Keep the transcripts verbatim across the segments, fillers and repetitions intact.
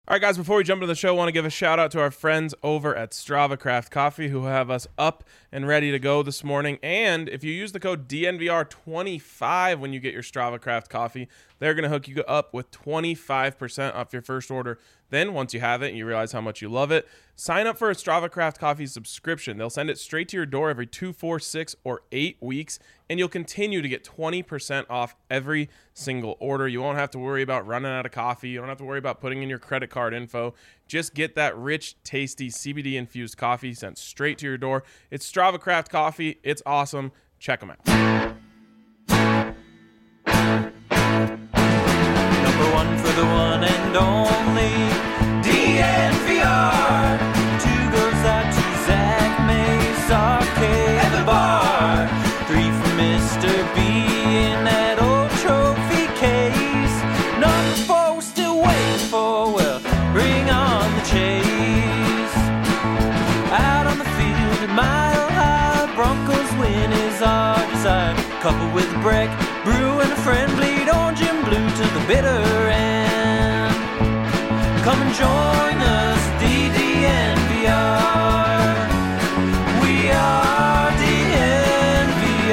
All right, guys, before we jump into the show, I want to give a shout out to our friends over at Strava Craft Coffee who have us up and ready to go this morning. And if you use the code D N V R twenty-five when you get your Strava Craft Coffee, they're going to hook you up with twenty-five percent off your first order. Then, once you have it and you realize how much you love it, sign up for a Strava Craft Coffee subscription. They'll send it straight to your door every two, four, six, or eight weeks, and you'll continue to get twenty percent off every single order. You won't have to worry about running out of coffee. You don't have to worry about putting in your credit card info. Just get that rich, tasty, C B D-infused coffee sent straight to your door. It's Strava Craft Coffee. It's awesome. Check them out. Number one for the one and only D N V R. Two goes out to Zach Mace, Arcade, and the bar. Three for Mister B in that old trophy case. Number four we're still waiting for, well, bring on the chase. Out on the field at Mile High, Broncos win is our desire. Coupled with Breck, Brew, and a friend, bleed orange and blue to the bitter end. Come and join us, D D N V R. We are D N V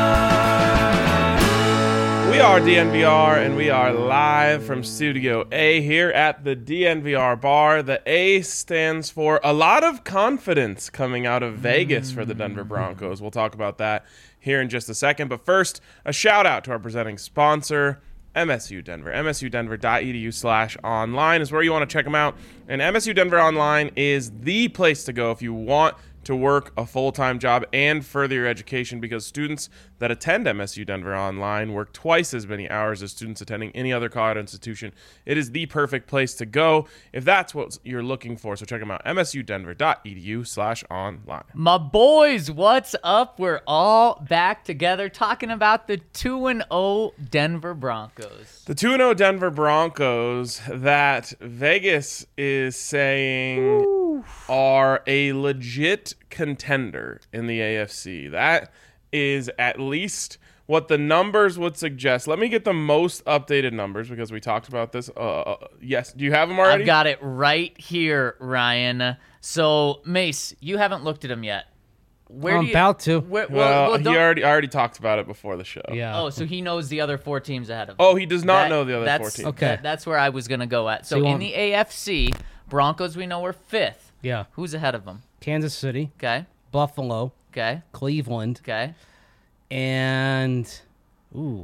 R. We are D N V R, and we are live from Studio A here at the D N V R bar. The A stands for a lot of confidence coming out of Vegas for the Denver Broncos. We'll talk about that here in just a second. But first, a shout out to our presenting sponsor, M S U Denver. M S U Denver dot E D U slash online is where you want to check them out. And M S U Denver Online is the place to go if you want to work a full-time job and further your education, because students that attend M S U Denver Online work twice as many hours as students attending any other college institution. It is the perfect place to go if that's what you're looking for. So check them out, M S U Denver dot E D U slash online. My boys, what's up? We're all back together talking about the two and oh Denver Broncos. The two and oh Denver Broncos that Vegas is saying Ooh. are a legit contender in the A F C. That is at least what the numbers would suggest. Let me get the most updated numbers because we talked about this. Uh, yes, do you have them already? I've got it right here, Ryan. So, Mace, you haven't looked at them yet. Where I'm do you, about to. Where, well, well, he don't- already I already talked about it before the show. Yeah. Oh, so he knows the other four teams ahead of him. Oh, he does not That- know the other that's, four teams. Okay. that- that's where I was going to go at. So, So you in want- the A F C, Broncos we know are fifth. Yeah. Who's ahead of them? Kansas City, Okay. Buffalo, Okay. Cleveland, Okay. and ooh,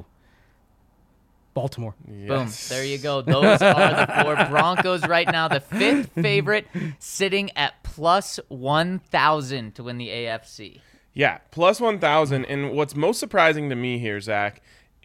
Baltimore. Boom. Yes. There you go. Those are the four Broncos right now. The fifth favorite sitting at plus one thousand to win the A F C. Yeah, plus one thousand. And what's most surprising to me here, Zach,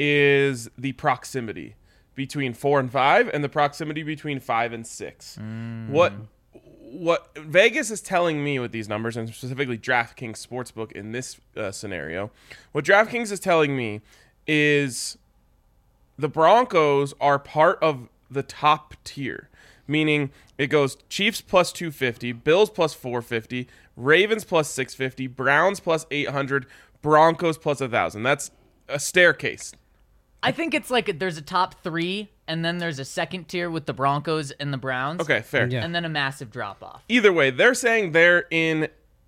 is the proximity between four and five and the proximity between five and six. Mm. What what Vegas is telling me with these numbers, and specifically DraftKings Sportsbook in this uh, scenario, what DraftKings is telling me is the Broncos are part of the top tier, meaning it goes Chiefs plus two fifty, Bills plus four fifty, Ravens plus six fifty, Browns plus eight hundred, Broncos plus one thousand. That's a staircase. I think it's like there's a top three, and then there's a second tier with the Broncos and the Browns. Okay, fair. Yeah. And then a massive drop off. Either way, they're saying they're in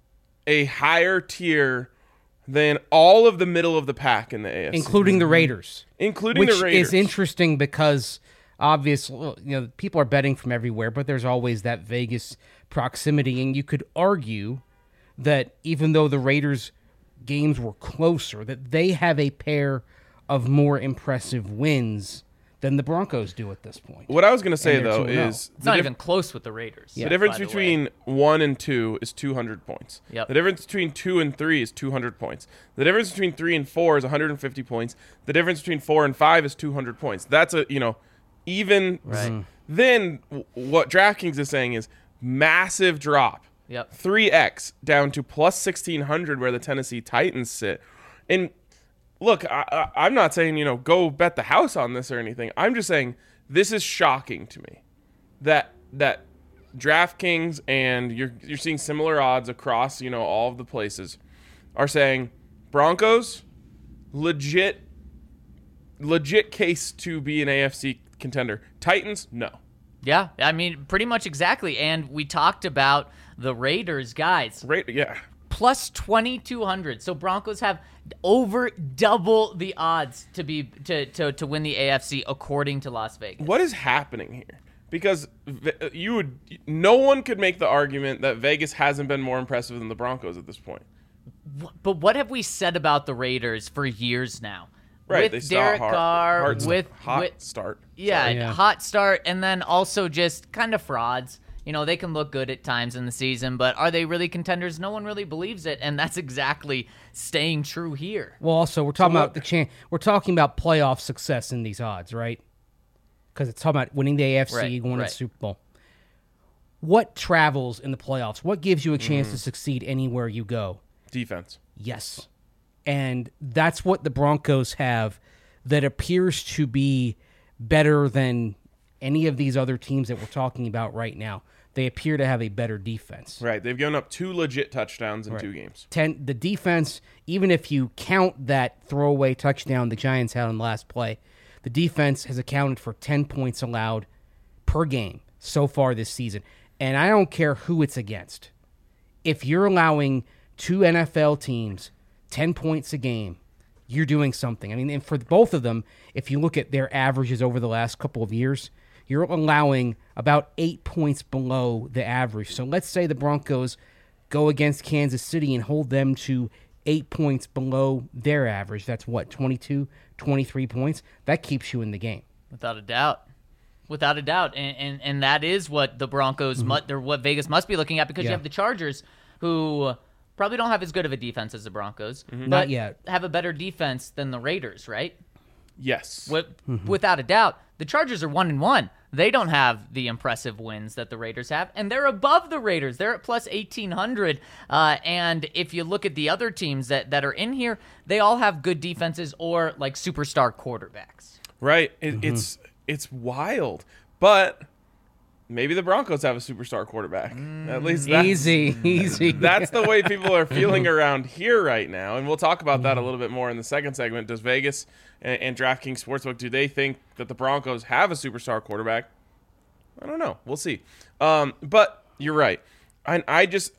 a higher tier than all of the middle of the pack in the A F C. Including the Raiders. Including which the Raiders. is interesting because obviously, well, you know, people are betting from everywhere, but there's always that Vegas proximity, and you could argue that even though the Raiders games were closer, that they have a pair of more impressive wins than the Broncos do at this point. What I was going to say, And they're though, two and oh. is It's the not dif- even close with the Raiders. the difference by the way. between one and two is two hundred points. Yep. The difference between two and three is two hundred points. The difference between three and four is one hundred fifty points. The difference between four and five is two hundred points. That's a, you know, even. Right. Then w- what DraftKings is saying is massive drop. Yep. three x down to plus sixteen hundred where the Tennessee Titans sit. And look, I, I, I'm not saying, you know, go bet the house on this or anything. I'm just saying this is shocking to me that that DraftKings, and you're you're seeing similar odds across, you know, all of the places, are saying Broncos, legit legit case to be an A F C contender. Titans, no. Yeah, I mean, pretty much exactly. And we talked about the Raiders, guys. Right? Yeah. Plus twenty-two hundred. So Broncos have over double the odds to be to, to, to win the A F C according to Las Vegas. What is happening here? Because you would, no one could make the argument that Vegas hasn't been more impressive than the Broncos at this point. But what have we said about the Raiders for years now? Right, With they start Derek hard, Carr, hard with hot with, start. Yeah, Yeah. hot start, and then also just kind of frauds. You know, they can look good at times in the season, but are they really contenders? No one really believes it, and that's exactly staying true here. Well, also we're talking what- about the chan- We're talking about playoff success in these odds, right? Because it's talking about winning the A F C, Right, going to right. the Super Bowl. What travels in the playoffs? What gives you a chance Mm. to succeed anywhere you go? Defense. Yes. And that's what the Broncos have that appears to be better than any of these other teams that we're talking about right now. They appear to have a better defense. Right. They've given up two legit touchdowns in two games. Ten, the defense, even if you count that throwaway touchdown the Giants had on the last play, the defense has accounted for ten points allowed per game so far this season. And I don't care who it's against. If you're allowing two N F L teams ten points a game, you're doing something. I mean, and for both of them, if you look at their averages over the last couple of years, you're allowing about eight points below the average. So let's say the Broncos go against Kansas City and hold them to eight points below their average. That's what, twenty-two, twenty-three points? That keeps you in the game. Without a doubt. Without a doubt. And and, and that is what the Broncos, Mm-hmm. mu- or what Vegas must be looking at, because Yeah. you have the Chargers, who probably don't have as good of a defense as the Broncos, but Not yet. have a better defense than the Raiders, right? Yes. With, Mm-hmm. Without a doubt, the Chargers are one and one. They don't have the impressive wins that the Raiders have, and they're above the Raiders. They're at plus eighteen hundred. Uh, and if you look at the other teams that, that are in here, they all have good defenses or like superstar quarterbacks. Right. It, It's it's wild. But maybe the Broncos have a superstar quarterback. At least that's, Easy, easy. that's the way people are feeling around here right now. And we'll talk about that a little bit more in the second segment. Does Vegas and, and DraftKings Sportsbook, do they think that the Broncos have a superstar quarterback? I don't know. We'll see. Um, but you're right. I, I just...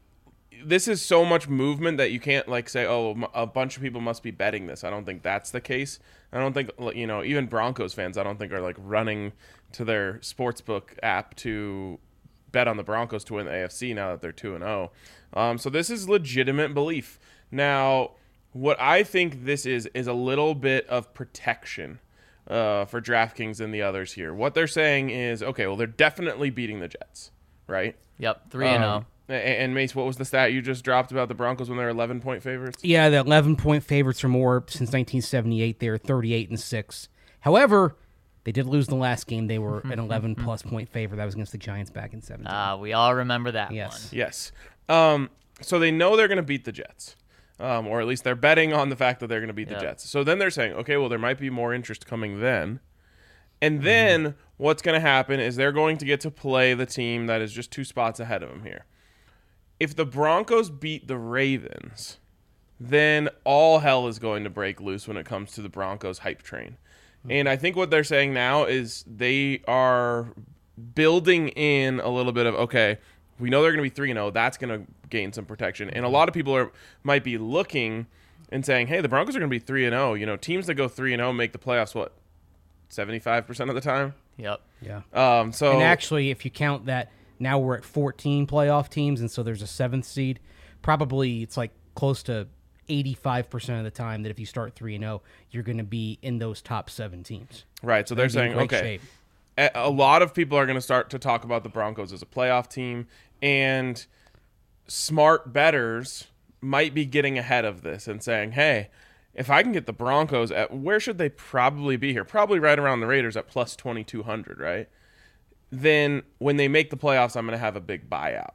This is so much movement that you can't like say, oh, a bunch of people must be betting this. I don't think that's the case. I don't think, you know, even Broncos fans, I don't think are like running to their sportsbook app to bet on the Broncos to win the A F C now that they're two and oh. Um, so this is legitimate belief. Now, what I think this is is a little bit of protection uh, for DraftKings and the others here. What they're saying is, okay, well, they're definitely beating the Jets, right? Yep, three and Um, zero. a- And Mace, what was the stat you just dropped about the Broncos when they're eleven point favorites? Yeah, the eleven-point favorites or more since nineteen seventy-eight. They're thirty-eight and six. However, they did lose the last game. They were an eleven-plus point favorite. That was against the Giants back in seventeen. Uh, we all remember that Yes. one. Yes. Um, so they know they're going to beat the Jets, um, or at least they're betting on the fact that they're going to beat Yeah. the Jets. So then they're saying, okay, well, there might be more interest coming then. And then what's going to happen is they're going to get to play the team that is just two spots ahead of them here. If the Broncos beat the Ravens, then all hell is going to break loose when it comes to the Broncos hype train. And I think what they're saying now is they are building in a little bit of, okay, we know they're going to be three and oh. That's going to gain some protection. And a lot of people are might be looking and saying, hey, the Broncos are going to be three and oh. You know, teams that go three and oh make the playoffs, what, seventy-five percent of the time? Yep. Yeah. Um, so And actually, if you count that, now we're at fourteen playoff teams, and so there's a seventh seed. Probably it's like close to eighty-five percent of the time that if you start three and zero, you're going to be in those top seven teams. Right, so they're They're in saying, great okay, shape. a a lot of people are going to start to talk about the Broncos as a playoff team, and smart bettors might be getting ahead of this and saying, hey, if I can get the Broncos at, where should they probably be here? Probably right around the Raiders at plus twenty-two hundred, right? Then when they make the playoffs, I'm going to have a big buyout.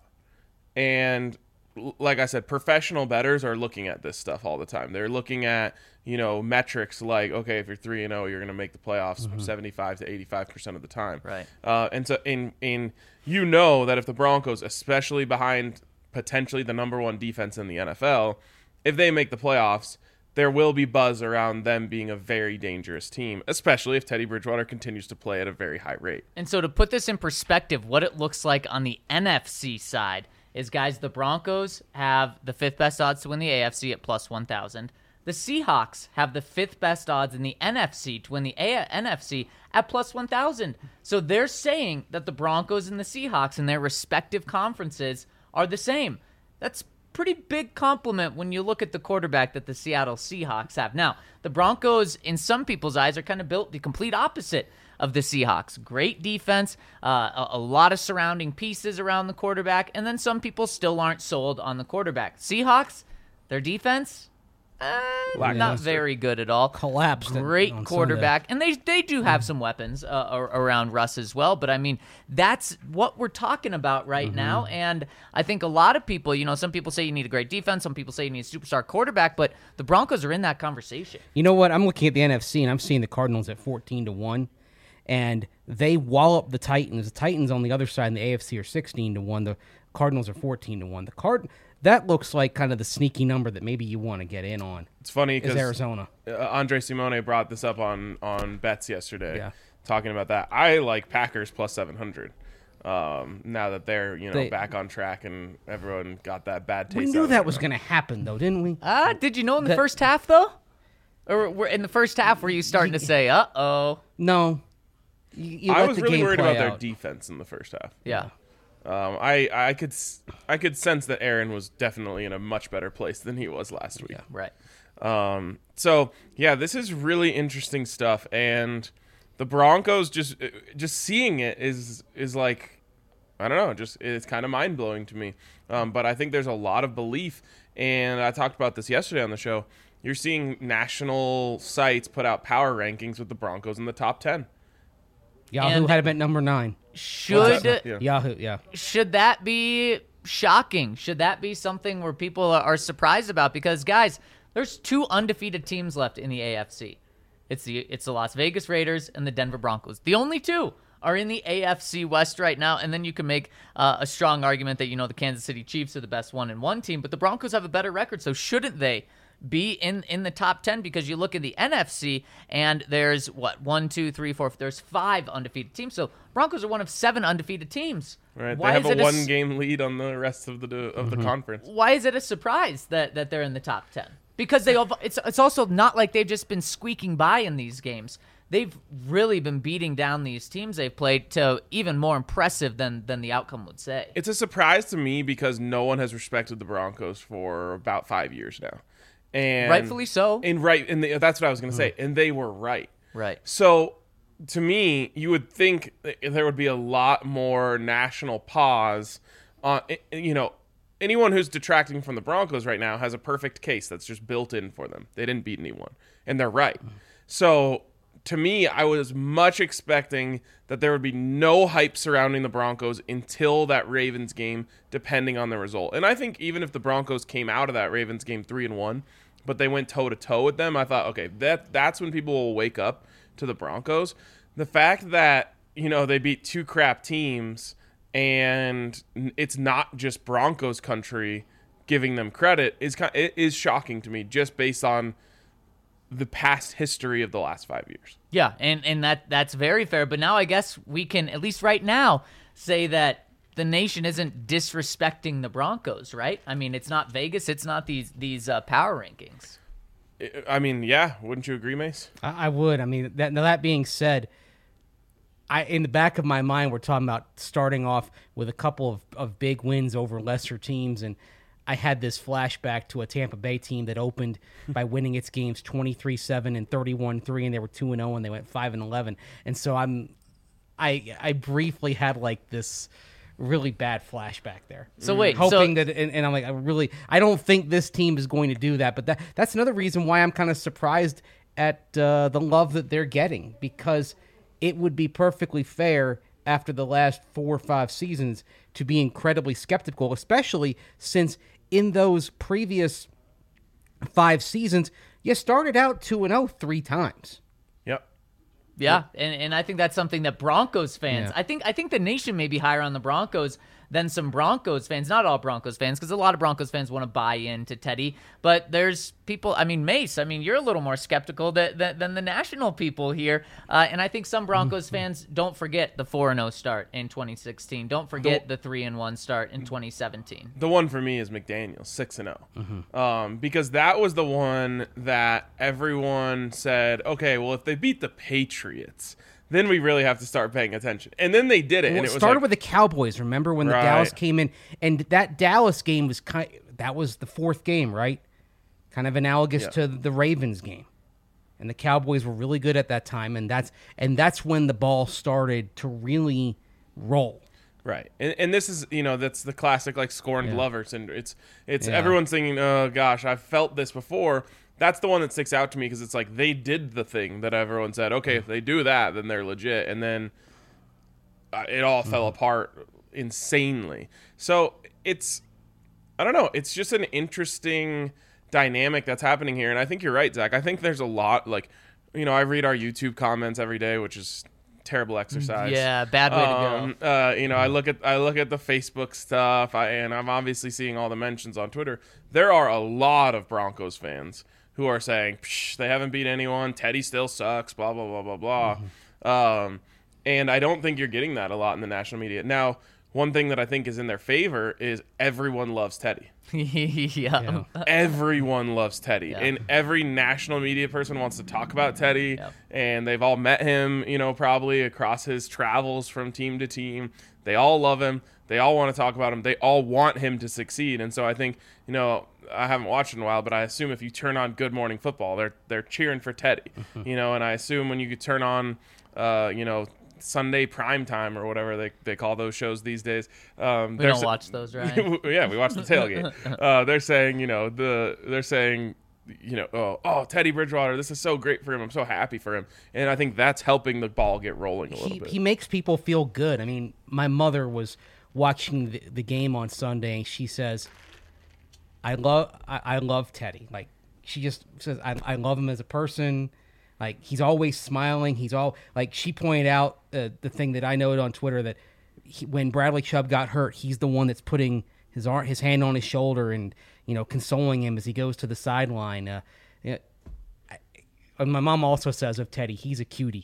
And l- like I said, professional bettors are looking at this stuff all the time. They're looking at, you know, metrics like, okay, if you're three and oh, you're going to make the playoffs seventy-five to eighty-five percent of the time. Right. Uh, and so in in you know that if the Broncos, especially behind potentially the number one defense in the N F L, if they make the playoffs, there will be buzz around them being a very dangerous team, especially if Teddy Bridgewater continues to play at a very high rate. And so to put this in perspective, what it looks like on the N F C side is, guys, the Broncos have the fifth best odds to win the A F C at plus one thousand. The Seahawks have the fifth best odds in the N F C to win the A- N F C at plus one thousand. So they're saying that the Broncos and the Seahawks in their respective conferences are the same. That's pretty big compliment when you look at the quarterback that the Seattle Seahawks have. Now, the Broncos, in some people's eyes, are kind of built the complete opposite of the Seahawks. Great defense, uh, a, a lot of surrounding pieces around the quarterback, and then some people still aren't sold on the quarterback. Seahawks, their defense, uh, not Lackluster. very good at all. Collapsed at- Great on quarterback, and they they do have some weapons uh, ar- around Russ as well. But I mean, that's what we're talking about right Mm-hmm. now. And I think a lot of people, you know, some people say you need a great defense, some people say you need a superstar quarterback, but the Broncos are in that conversation. You know what? I'm looking at the N F C, and I'm seeing the Cardinals at fourteen to one, and they wallop the Titans. The Titans on the other side in the A F C are sixteen to one. The Cardinals are fourteen to one. The Card That looks like kind of the sneaky number that maybe you want to get in on. It's funny Is because Arizona. uh, Andre Simone brought this up on, on bets yesterday, Yeah. talking about that. I like Packers plus seven hundred. Um, now that they're you know They- back on track and everyone got that bad taste. We out knew of that it. was going to happen, though, didn't we? Ah, did you know in the That- first half though, or were in the first half were you starting to say, "Uh oh"? No. You, you I let was the really game worried play about their out. defense in the first half. Yeah. Um, I I could s- I could sense that Aaron was definitely in a much better place than he was last week. Right. Um, so yeah, this is really interesting stuff, and the Broncos just just seeing it is is like, I don't know, just it's kind of mind blowing to me. Um, but I think there's a lot of belief, and I talked about this yesterday on the show. You're seeing national sites put out power rankings with the Broncos in the top ten. Yahoo And- had him at number nine. Should Yeah. Yahoo, yeah. should that be shocking? Should that be something where people are are surprised about? Because guys, there's two undefeated teams left in the A F C. It's the it's the Las Vegas Raiders and the Denver Broncos. The only two are in the A F C West right now, and then you can make uh, a strong argument that you know the Kansas City Chiefs are the best one and one team, but the Broncos have a better record, so shouldn't they be in in the top ten? Because you look at the N F C and there's what one, two, three, four. There's five undefeated teams. So Broncos are one of seven undefeated teams. Right, Why they have is a it s- one-game lead on the rest of the of the conference. Why is it a surprise that, that they're in the top ten? Because they it's it's also not like they've just been squeaking by in these games. They've really been beating down these teams they've played to even more impressive than than the outcome would say. It's a surprise to me because no one has respected the Broncos for about five years now, and Rightfully so. And right, and they, that's what I was going to say, and they were right. Right. So, to me, you would think that there would be a lot more national pause on, you know, anyone who's detracting from the Broncos right now has a perfect case that's just built in for them. They didn't beat anyone, and they're right. So, to me, I was much expecting that there would be no hype surrounding the Broncos until that Ravens game, depending on the result. And I think even if the Broncos came out of that Ravens game three and one, but they went toe to toe with them, I thought, okay, that that's when people will wake up to the Broncos. The fact that, you know, they beat two crap teams and it's not just Broncos country giving them credit is kind it is shocking to me, just based on the past history of the last five years. Yeah, and, and that that's very fair. But now I guess we can, at least right now, say that the nation isn't disrespecting the Broncos, right? I mean, it's not Vegas. It's not these these uh, power rankings. I I mean, yeah, wouldn't you agree, Mace? I, I would. I mean, that, now that being said, I in the back of my mind, we're talking about starting off with a couple of, of big wins over lesser teams, and I had this flashback to a Tampa Bay team that opened by winning its games twenty-three seven and thirty-one three, and they were two and oh, and they went five and eleven. And so I'm, I I briefly had like this really bad flashback there. So wait, hoping so, that, and, and I'm like, I really, I don't think this team is going to do that. But that that's another reason why I'm kind of surprised at uh, the love that they're getting, because it would be perfectly fair after the last four or five seasons to be incredibly skeptical, especially since in those previous five seasons, you started out two and oh three times. Yep. Yeah, and, and I think that's something that Broncos fans, Yeah. I think I think the nation may be higher on the Broncos than some Broncos fans. Not all Broncos fans, because a lot of Broncos fans want to buy into Teddy. But there's people, I mean, Mace, I mean, you're a little more skeptical that, that, than the national people here. Uh, and I think some Broncos fans don't forget the four and oh start in twenty sixteen. Don't forget the three and one start in twenty seventeen. The one for me is McDaniels, six and oh. Um, because that was the one that everyone said, okay, well, if they beat the Patriots, then we really have to start paying attention. And then they did it. Well, and it it was started like, with the Cowboys. Remember when Right. the Dallas came in, and that Dallas game was kind. That was the fourth game, right? Kind of analogous Yeah. to the Ravens game, and the Cowboys were really good at that time, and that's and that's when the ball started to really roll. Right, and, and this is, you know, that's the classic, like, scorned Yeah. lover syndrome. It's it's Yeah. everyone's thinking, oh gosh, I've felt this before. That's the one that sticks out to me because it's like they did the thing that everyone said, okay, if they do that, then they're legit, and then uh, it all fell apart insanely. So it's, I don't know, it's just an interesting dynamic that's happening here, and I think you're right, Zach. I think there's a lot, like, you know, I read our YouTube comments every day, which is terrible exercise. Yeah, bad way Um, to go. uh, you know, I look at I look at the Facebook stuff, I, and I'm obviously seeing all the mentions on Twitter. There are a lot of Broncos fans who are saying, Psh, they haven't beat anyone. Teddy still sucks. Blah blah blah blah blah. Mm-hmm. Um, and I don't think you're getting that a lot in the national media. Now, one thing that I think is in their favor is everyone loves Teddy. yeah. Everyone loves Teddy, Yeah. and every national media person wants to talk about Teddy. Yep. And they've all met him, you know, probably across his travels from team to team. They all love him. They all want to talk about him. They all want him to succeed. And so I think, you know, I haven't watched in a while, but I assume if you turn on Good Morning Football, they're they're cheering for Teddy, you know. And I assume when you could turn on, uh, you know, Sunday prime time or whatever they, they call those shows these days. Um, We they're don't sa- watch those, right? yeah, we watch the tailgate. Uh, they're saying, you know, the they're saying, you know, oh, oh, Teddy Bridgewater, this is so great for him. I'm so happy for him, and I think that's helping the ball get rolling a little He, bit. he makes people feel good. I mean, my mother was watching the, the game on Sunday, and she says, "I love, I, I love Teddy." Like she just says, I, "I love him as a person." Like he's always smiling. He's all like she pointed out uh, the thing that I noted on Twitter that he, when Bradley Chubb got hurt, he's the one that's putting his arm, his hand on his shoulder, and you know, consoling him as he goes to the sideline. Uh, yeah, I, and my mom also says of Teddy, he's a cutie.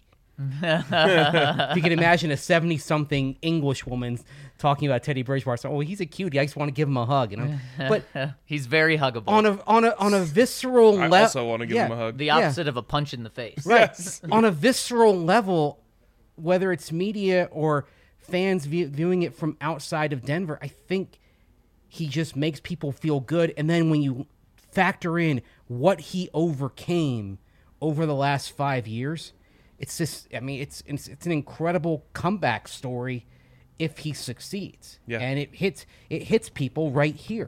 If you can imagine a seventy-something English woman talking about Teddy Bridgewater, so, oh, he's a cutie. I just want to give him a hug, you know. But He's very huggable. on a on a on a visceral I level, also want to give him a hug. the yeah. opposite of a punch in the face. Right. Yes. On a visceral level, whether it's media or fans view, viewing it from outside of Denver, I think he just makes people feel good. And then when you factor in what he overcame over the last five years, it's just, I mean, it's it's, it's an incredible comeback story if he succeeds. Yeah. And it hits it hits people right here.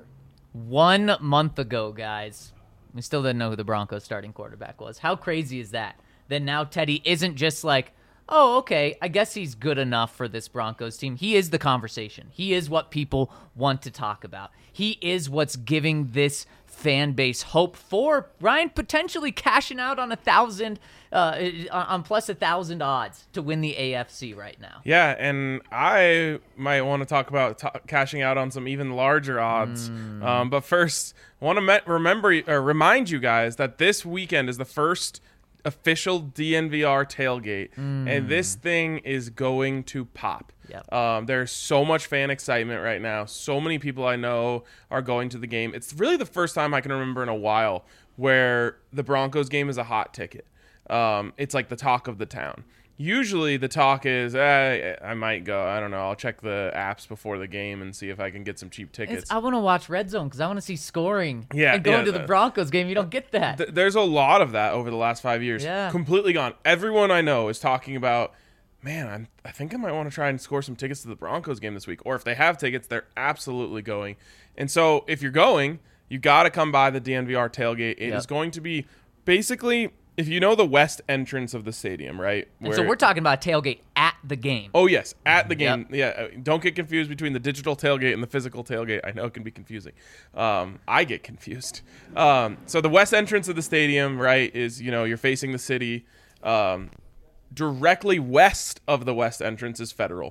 One month ago, guys, we still didn't know who the Broncos starting quarterback was. How crazy is that? Then now Teddy isn't just like, oh, okay, I guess he's good enough for this Broncos team. He is the conversation. He is what people want to talk about. He is what's giving this fan base hope for Ryan potentially cashing out on a thousand, uh, on plus a thousand odds to win the A F C right now. Yeah, and I might want to talk about t- cashing out on some even larger odds. Mm. Um, but first, I want to me- remember or remind you guys that this weekend is the first official D N V R tailgate, and this thing is going to pop. Yep. Um, there's so much fan excitement right now. So many people I know are going to the game. It's really the first time I can remember in a while where the Broncos game is a hot ticket. Um, it's like the talk of the town. Usually the talk is, eh, I might go. I don't know. I'll check the apps before the game and see if I can get some cheap tickets. It's, I want to watch Red Zone because I want to see scoring. Yeah, and going yeah, to the that- Broncos game, you don't get that. Th- there's a lot of that over the last five years. Yeah. Completely gone. Everyone I know is talking about, man, I'm, I think I might want to try and score some tickets to the Broncos game this week. Or if they have tickets, they're absolutely going. And so if you're going, you got to come by the D N V R tailgate. It Yep. is going to be basically, if you know the west entrance of the stadium, right? And so we're talking about tailgate at the game. Oh, yes, at the game. Yep. Yeah, uh, don't get confused between the digital tailgate and the physical tailgate. I know it can be confusing. Um, I get confused. Um, so the west entrance of the stadium, right, is, you know, you're facing the city. Um, directly west of the west entrance is Federal.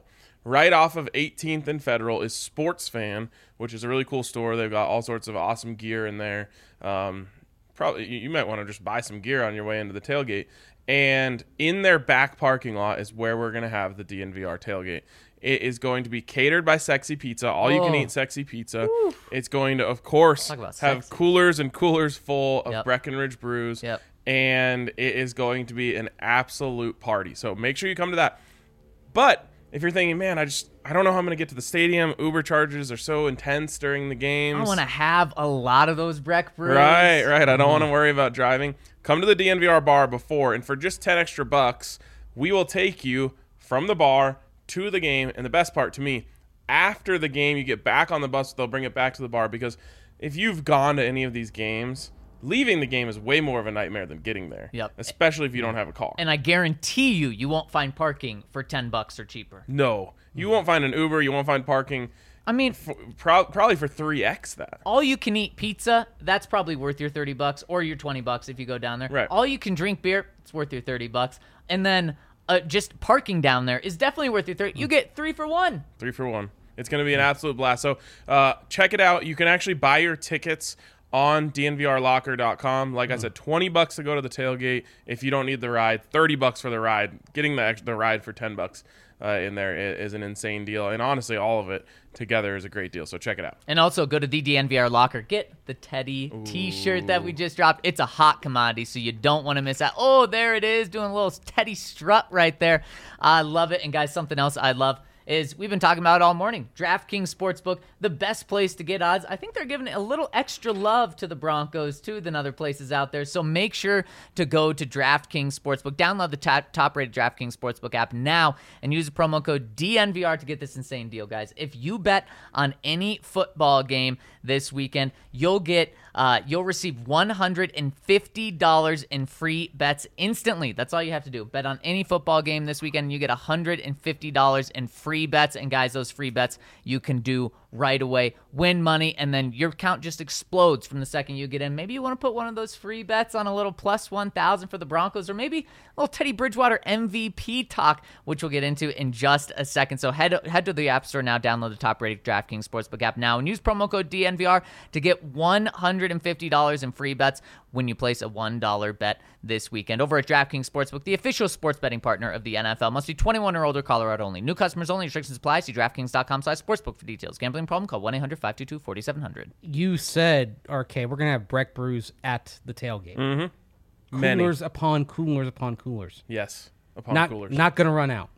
right off of eighteenth and Federal is Sports Fan, which is a really cool store. They've got all sorts of awesome gear in there. Um, probably you, you might want to just buy some gear on your way into the tailgate. And in their back parking lot is where we're going to have the D N V R tailgate. It is going to be catered by Sexy Pizza, all you can Oh. eat Sexy Pizza. Woo. It's going to, of course, Talk about have sexy. coolers and coolers full of Yep. Breckenridge brews. Yep. And it is going to be an absolute party. So make sure you come to that. But if you're thinking, man, I just I don't know how I'm going to get to the stadium. Uber charges are so intense during the games. I want to have a lot of those Breck brews. Right, right. I don't want to worry about driving. Come to the D N V R bar before, and for just ten extra bucks, we will take you from the bar to the game. And the best part to me, after the game, you get back on the bus, they'll bring it back to the bar, because if you've gone to any of these games, leaving the game is way more of a nightmare than getting there. Yep. Especially if you don't have a car. And I guarantee you, you won't find parking for ten bucks or cheaper. No, you won't find an Uber. You won't find parking. I mean, For, pro- probably for three X that. all you can eat pizza, that's probably worth your thirty bucks or your twenty bucks if you go down there. Right. All you can drink beer, it's worth your thirty bucks. And then uh, just parking down there is definitely worth your thirty. You get three for one. Three for one. It's going to be an absolute blast. So uh, check it out. You can actually buy your tickets on D N V R locker dot com. Like I said, twenty bucks to go to the tailgate if you don't need the ride, thirty bucks for the ride. Getting the, ex- the ride for ten bucks uh, in there is, is an insane deal. And honestly, all of it together is a great deal. So check it out. And also go to the D N V R Locker. Get the Teddy t-shirt that we just dropped. It's a hot commodity, so you don't want to miss out. Oh, there it is, doing a little Teddy strut right there. I love it. And guys, something else I love is we've been talking about it all morning. DraftKings Sportsbook, the best place to get odds. I think they're giving a little extra love to the Broncos, too, than other places out there. So make sure to go to DraftKings Sportsbook. Download the top, top-rated DraftKings Sportsbook app now and use the promo code D N V R to get this insane deal, guys. If you bet on any football game this weekend, you'll get uh, you'll receive one hundred fifty dollars in free bets instantly. That's all you have to do. Bet on any football game this weekend, and you get one hundred fifty dollars in free bets. And guys, those free bets you can do right away. Win money, and then your account just explodes from the second you get in. Maybe you want to put one of those free bets on a little plus one thousand for the Broncos, or maybe a little Teddy Bridgewater M V P talk, which we'll get into in just a second. So head head to the App Store now, download the top-rated DraftKings Sportsbook app now, and use promo code D N V R to get one hundred fifty dollars in free bets when you place a one dollar bet this weekend. Over at DraftKings Sportsbook, the official sports betting partner of the N F L. Must be twenty-one or older, Colorado only. New customers only. Restrictions apply. See DraftKings.com slash sportsbook for details. Gambling problem? Call one eight hundred five two two four seven zero zero. You said, R K, we're going to have Breck brews at the tailgate. Mm-hmm. Many. Coolers upon coolers upon coolers. Yes. Upon Not, coolers. not going to run out.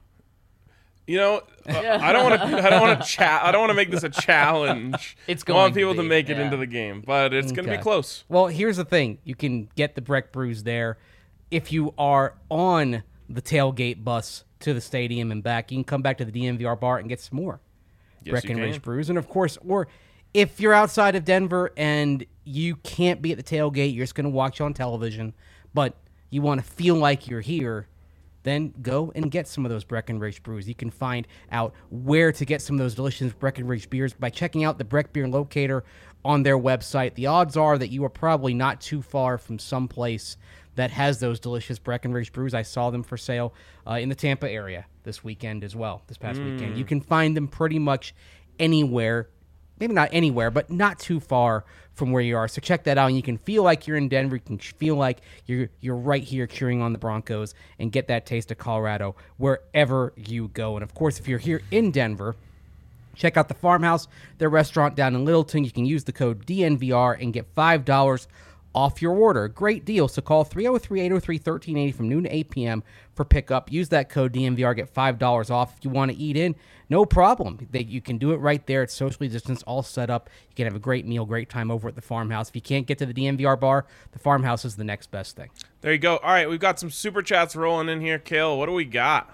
You know, uh, I don't want to. I don't want to chat. I don't want to make this a challenge. It's I want going to people to, be, make it yeah. into the game, but it's going to Okay. be close. Well, here's the thing. You can get the Breck brews there. If you are on the tailgate bus to the stadium and back, you can come back to the D N V R bar and get some more Yes, Breckenridge you can. brews. And, of course, or if you're outside of Denver and you can't be at the tailgate, you're just going to watch on television, but you want to feel like you're here, then go and get some of those Breckenridge brews. You can find out where to get some of those delicious Breckenridge beers by checking out the Breck Beer Locator on their website. The odds are that you are probably not too far from some place that has those delicious Breckenridge brews. I saw them for sale uh, in the Tampa area this weekend as well, this past Mm. weekend. You can find them pretty much anywhere. Maybe not anywhere, but not too far from where you are. So check that out, and you can feel like you're in Denver. You can feel like you're you're right here cheering on the Broncos and get that taste of Colorado wherever you go. And, of course, if you're here in Denver, check out the Farmhouse, their restaurant down in Littleton. You can use the code D N V R and get five dollars off your order. Great deal. So call three oh three, eight oh three, one three eight oh from noon to eight p.m. for pickup. Use that code D N V R, get five dollars off. If you want to eat in, no problem. They, you can do it right there. It's socially distanced, all set up. You can have a great meal, great time over at the Farmhouse. If you can't get to the D N V R bar, the Farmhouse is the next best thing. There you go. All right, we've got some super chats rolling in here. Kale, what do we got?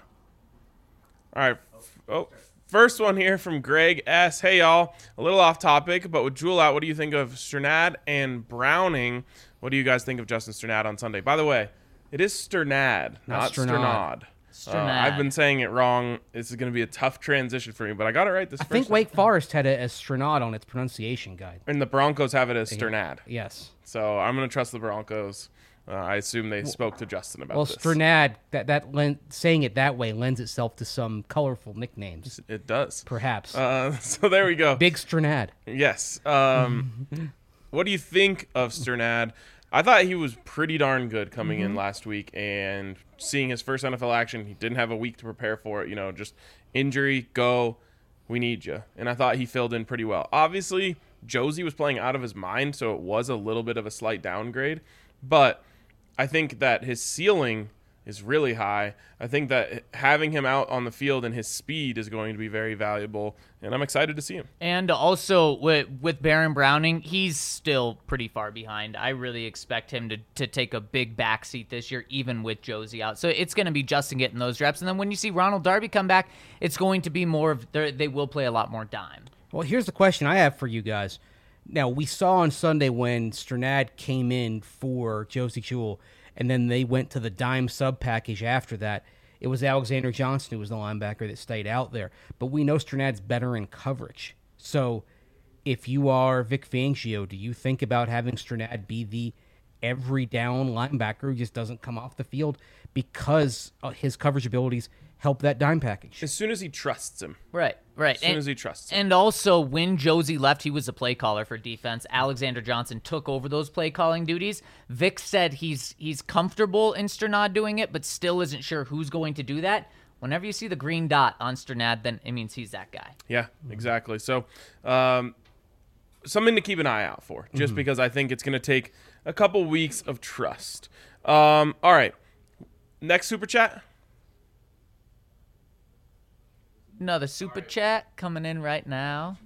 All right. Oh, first one here from Greg S. Hey, y'all. A little off topic, but with Jewel out, what do you think of Sternad and Browning? What do you guys think of Justin Sternad on Sunday? By the way, it is Sternad, not, Not Sternad. Sternad. Uh, Sternad. I've been saying it wrong. This is going to be a tough transition for me, but I got it right this I first think time. Wake Forest had it as Strenad on its pronunciation guide. And the Broncos have it as Sternad. Yes. So I'm going to trust the Broncos Uh, I assume they spoke to Justin about Well, this. Strnad, that that len- saying it that way lends itself to some colorful nicknames, It does. perhaps. Uh, so there we go. Big Strnad. Yes. Um, what do you think of Strnad? I thought he was pretty darn good coming Mm-hmm. in last week, and seeing his first N F L action, he didn't have a week to prepare for it. You know, just injury, go, we need you. And I thought he filled in pretty well. Obviously, Josie was playing out of his mind, so it was a little bit of a slight downgrade. But I think that his ceiling is really high. I think that having him out on the field and his speed is going to be very valuable, and I'm excited to see him. And also with with Baron Browning, he's still pretty far behind. I really expect him to, to take a big backseat this year, even with Josie out. So it's going to be Justin getting those reps. And then when you see Ronald Darby come back, it's going to be more of, they will play a lot more dime. Well, here's the question I have for you guys. Now, we saw on Sunday when Strnad came in for Josie Jewell, and then they went to the dime sub package after that. It was Alexander Johnson who was the linebacker that stayed out there. But we know Strnad's better in coverage. So if you are Vic Fangio, do you think about having Strnad be the every down linebacker who just doesn't come off the field because his coverage abilities help that dime package? As soon as he trusts him. Right, right. As soon and, as he trusts him. And also, when Josie left, he was a play caller for defense. Alexander Johnson took over those play calling duties. Vic said he's he's comfortable in Strnad doing it, but still isn't sure who's going to do that. Whenever you see the green dot on Strnad, then it means he's that guy. Yeah, exactly. So um, something to keep an eye out for, just Mm-hmm. because I think it's going to take a couple weeks of trust. Um, all right. Next super chat. Another super chat coming in right now.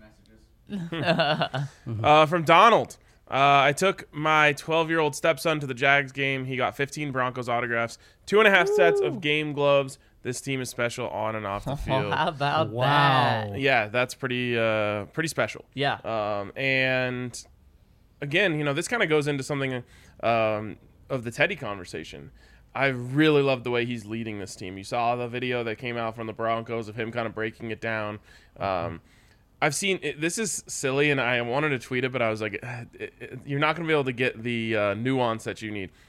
Uh, from Donald. Uh, I took my twelve-year-old stepson to the Jags game. He got fifteen Broncos autographs, two and a half sets of game gloves. This team is special on and off the Oh, field. how about Wow. that? Yeah, that's pretty uh, pretty special. Yeah. Um, and again, you know, this kind of goes into something um, of the Teddy conversation. I really love the way he's leading this team. You saw the video that came out from the Broncos of him kind of breaking it down. Um, I've seen it, this is silly, and I wanted to tweet it, but I was like, "Eh, it, it, you're not going to be able to get the uh, nuance that you need.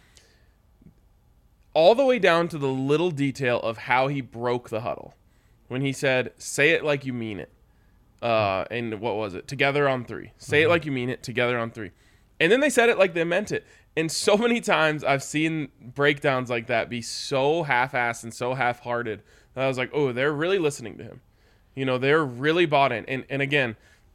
All the way down to the little detail of how he broke the huddle when he said, "Say it like you mean it." Uh, and what was it? Together on three. Say it like you mean it. Together on three. And then they said it like they meant it. And so many times I've seen breakdowns like that be so half-assed and so half-hearted that I was like, oh, they're really listening to him. You know, they're really bought in. And and again,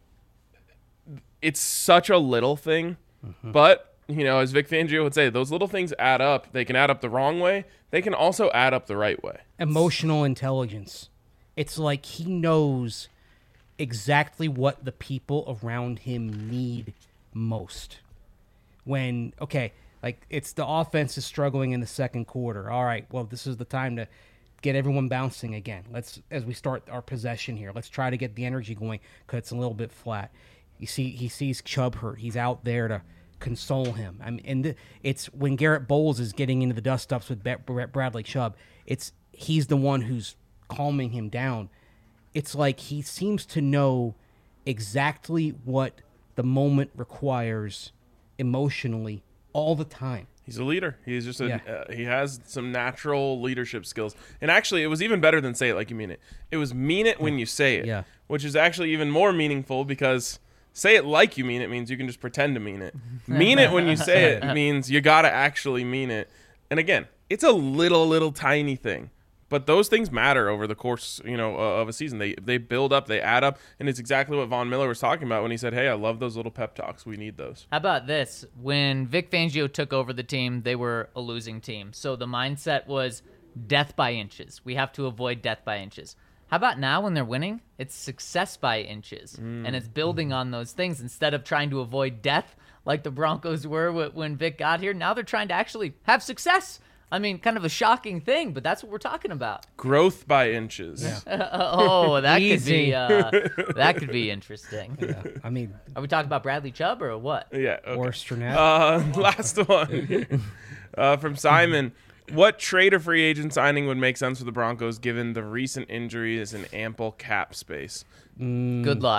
it's such a little thing, but you know, as Vic Fangio would say, those little things add up. They can add up the wrong way. They can also add up the right way. Emotional intelligence. It's like he knows exactly what the people around him need most. When, okay, like it's the offense is struggling in the second quarter. All right, well, this is the time to get everyone bouncing again. Let's, as we start our possession here, let's try to get the energy going because it's a little bit flat. You see, he sees Chubb hurt. He's out there to console him. I mean, and th- it's when Garrett Bowles is getting into the dust-ups with Brett Bradley Chubb, it's he's the one who's calming him down. It's like he seems to know exactly what the moment requires emotionally all the time. He's a leader. He's just a, Yeah. uh, he has some natural leadership skills. And actually, it was even better than say it like you mean it. It was mean it when you say it, Yeah. which is actually even more meaningful because say it like you mean it means you can just pretend to mean it. Mean it when you say it means you got to actually mean it. And again, it's a little, little tiny thing. But those things matter over the course, you know, uh, of a season. They they build up, they add up, and it's exactly what Von Miller was talking about when he said, "Hey, I love those little pep talks. We need those." How about this? When Vic Fangio took over the team, they were a losing team. So the mindset was death by inches. We have to avoid death by inches. How about now when they're winning? It's success by inches. Mm. And it's building on those things instead of trying to avoid death like the Broncos were when Vic got here. Now they're trying to actually have success. I mean, kind of a shocking thing, but that's what we're talking about. Growth by inches. Yeah. Oh, that could Easy. be uh, that could be interesting. Yeah, I mean, Are we talking about Bradley Chubb or what? Yeah. Okay. or Strnad. Uh, last one uh, from Simon. What trade or free agent signing would make sense for the Broncos given the recent injuries and ample cap space? Good luck.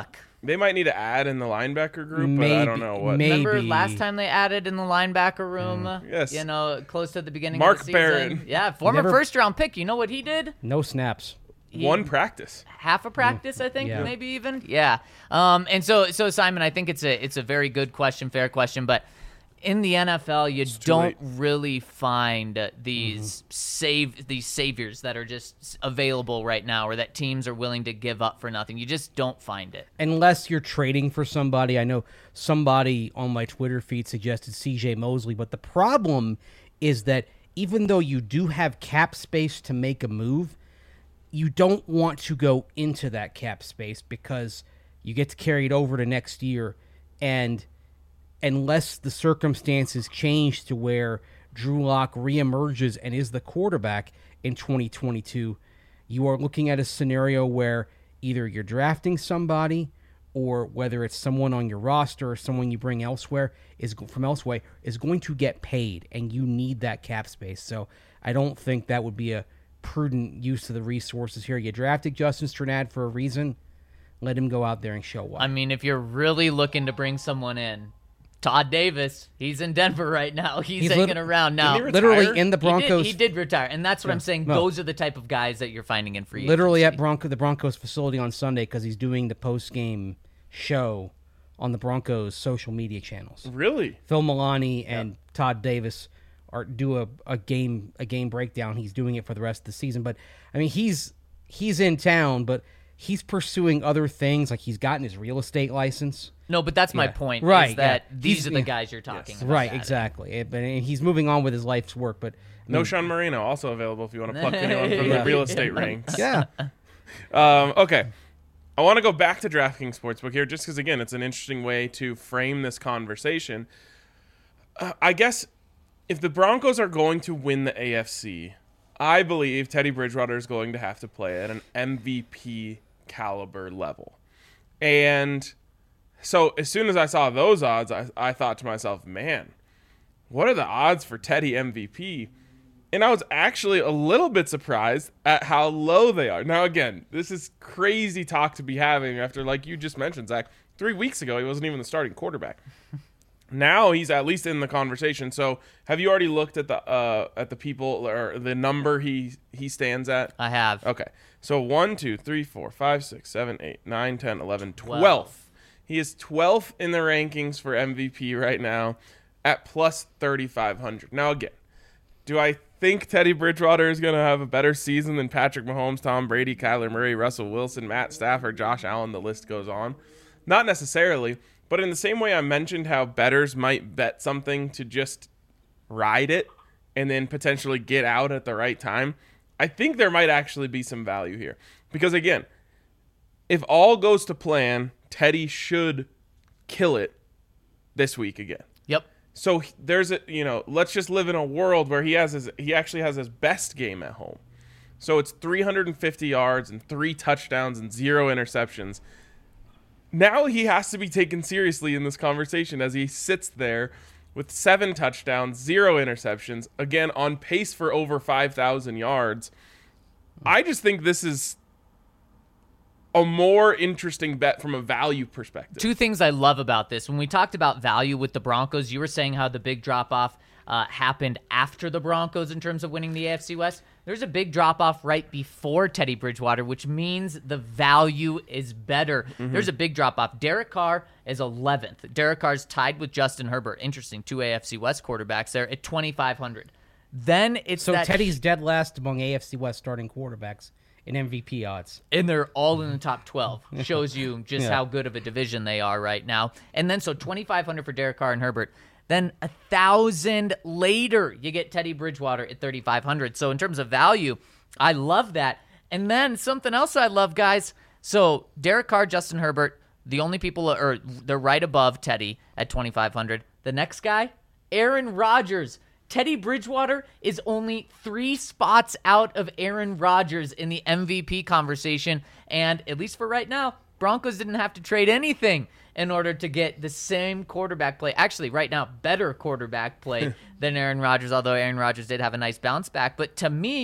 They might need to add in the linebacker group, Maybe, but I don't know what. maybe. Remember last time they added in the linebacker room? Mm. Yes. You know, close to the beginning Mark of the season. Barron. Yeah, former Never- first round pick. You know what he did? No snaps. He- One practice. half a practice, I think, Yeah. maybe even. Yeah. Um, and so, so Simon, I think it's a it's a very good question, fair question, but in the N F L, you too don't late. really find uh, these save these saviors that are just available right now, or that teams are willing to give up for nothing. You just don't find it. Unless you're trading for somebody. I know somebody on my Twitter feed suggested C J Mosley, but the problem is that even though you do have cap space to make a move, you don't want to go into that cap space because you get to carry it over to next year, and unless the circumstances change to where Drew Lock reemerges and is the quarterback in twenty twenty-two, you are looking at a scenario where either you're drafting somebody, or whether it's someone on your roster or someone you bring elsewhere is from elsewhere is going to get paid, and you need that cap space. So I don't think that would be a prudent use of the resources here. You drafted Justin Strnad for a reason. Let him go out there and show why. I mean, if you're really looking to bring someone in, Todd Davis, he's in Denver right now. He's, He's hanging lit- around now. Didn't he Literally retire? in the He did- Broncos. He did, retire, and that's what I'm saying. No. Those are the type of guys that you're finding in free Literally agency. at Bronco, the Broncos facility on Sunday because he's doing the post-game show on the Broncos social media channels. Really? Phil Milani and Todd Davis are do a, a game a game breakdown. He's doing it for the rest of the season. But I mean, he's he's in town, but he's pursuing other things. Like he's gotten his real estate license. No, but that's my Yeah. point. Right, Is that yeah. these He's- are the yeah. guys you're talking Yes. about. Right, that. exactly. It- but he's moving on with his life's work. But I No mean, Sean Marino, also available if you want to pluck anyone from Yeah. the real estate ranks. yeah, Um, okay. I want to go back to DraftKings Sportsbook here just because, again, it's an interesting way to frame this conversation. Uh, I guess if the Broncos are going to win the A F C, I believe Teddy Bridgewater is going to have to play at an M V P caliber level. And so as soon as I saw those odds, I, I thought to myself, man, what are the odds for Teddy M V P? And I was actually a little bit surprised at how low they are. Now, again, this is crazy talk to be having after, like you just mentioned, Zach, three weeks ago, he wasn't even the starting quarterback. Now he's at least in the conversation. So have you already looked at the uh, at the people or the number he, he stands at? I have. Okay. So one, two, three, four, five, six, seven, eight, nine, ten, eleven, Twelve. twelfth. He is twelfth in the rankings for M V P right now at plus thirty-five hundred. Now, again, do I think Teddy Bridgewater is going to have a better season than Patrick Mahomes, Tom Brady, Kyler Murray, Russell Wilson, Matt Stafford, Josh Allen? The list goes on. Not necessarily, but in the same way I mentioned how bettors might bet something to just ride it and then potentially get out at the right time, I think there might actually be some value here. Because, again, if all goes to plan, Teddy should kill it this week again. Yep. So he- there's a, you know, let's just live in a world where he has his, he actually has his best game at home. So it's three hundred fifty yards and three touchdowns and zero interceptions. Now he has to be taken seriously in this conversation as he sits there with seven touchdowns, zero interceptions, again on pace for over five thousand yards. I just think this is a more interesting bet from a value perspective. Two things I love about this. When we talked about value with the Broncos, you were saying how the big drop-off uh, happened after the Broncos in terms of winning the A F C West. There's a big drop-off right before Teddy Bridgewater, which means the value is better. Mm-hmm. There's a big drop-off. Derek Carr is eleventh. Derek Carr's tied with Justin Herbert. Interesting, two A F C West quarterbacks there at twenty-five hundred. Then it's so that Teddy's dead last among A F C West starting quarterbacks in M V P odds. and they're all in the top twelve. Shows you just Yeah. how good of a division they are right now. And then so twenty-five hundred for Derek Carr and Herbert. Then a thousand later, you get Teddy Bridgewater at thirty-five hundred. So in terms of value, I love that. And then something else I love, guys. So Derek Carr, Justin Herbert, the only people are they're right above Teddy at twenty-five hundred. The next guy, Aaron Rodgers. Teddy Bridgewater is only three spots out of Aaron Rodgers in the M V P conversation. And at least for right now, Broncos didn't have to trade anything in order to get the same quarterback play. Actually, right now, better quarterback play than Aaron Rodgers, although Aaron Rodgers did have a nice bounce back. But to me,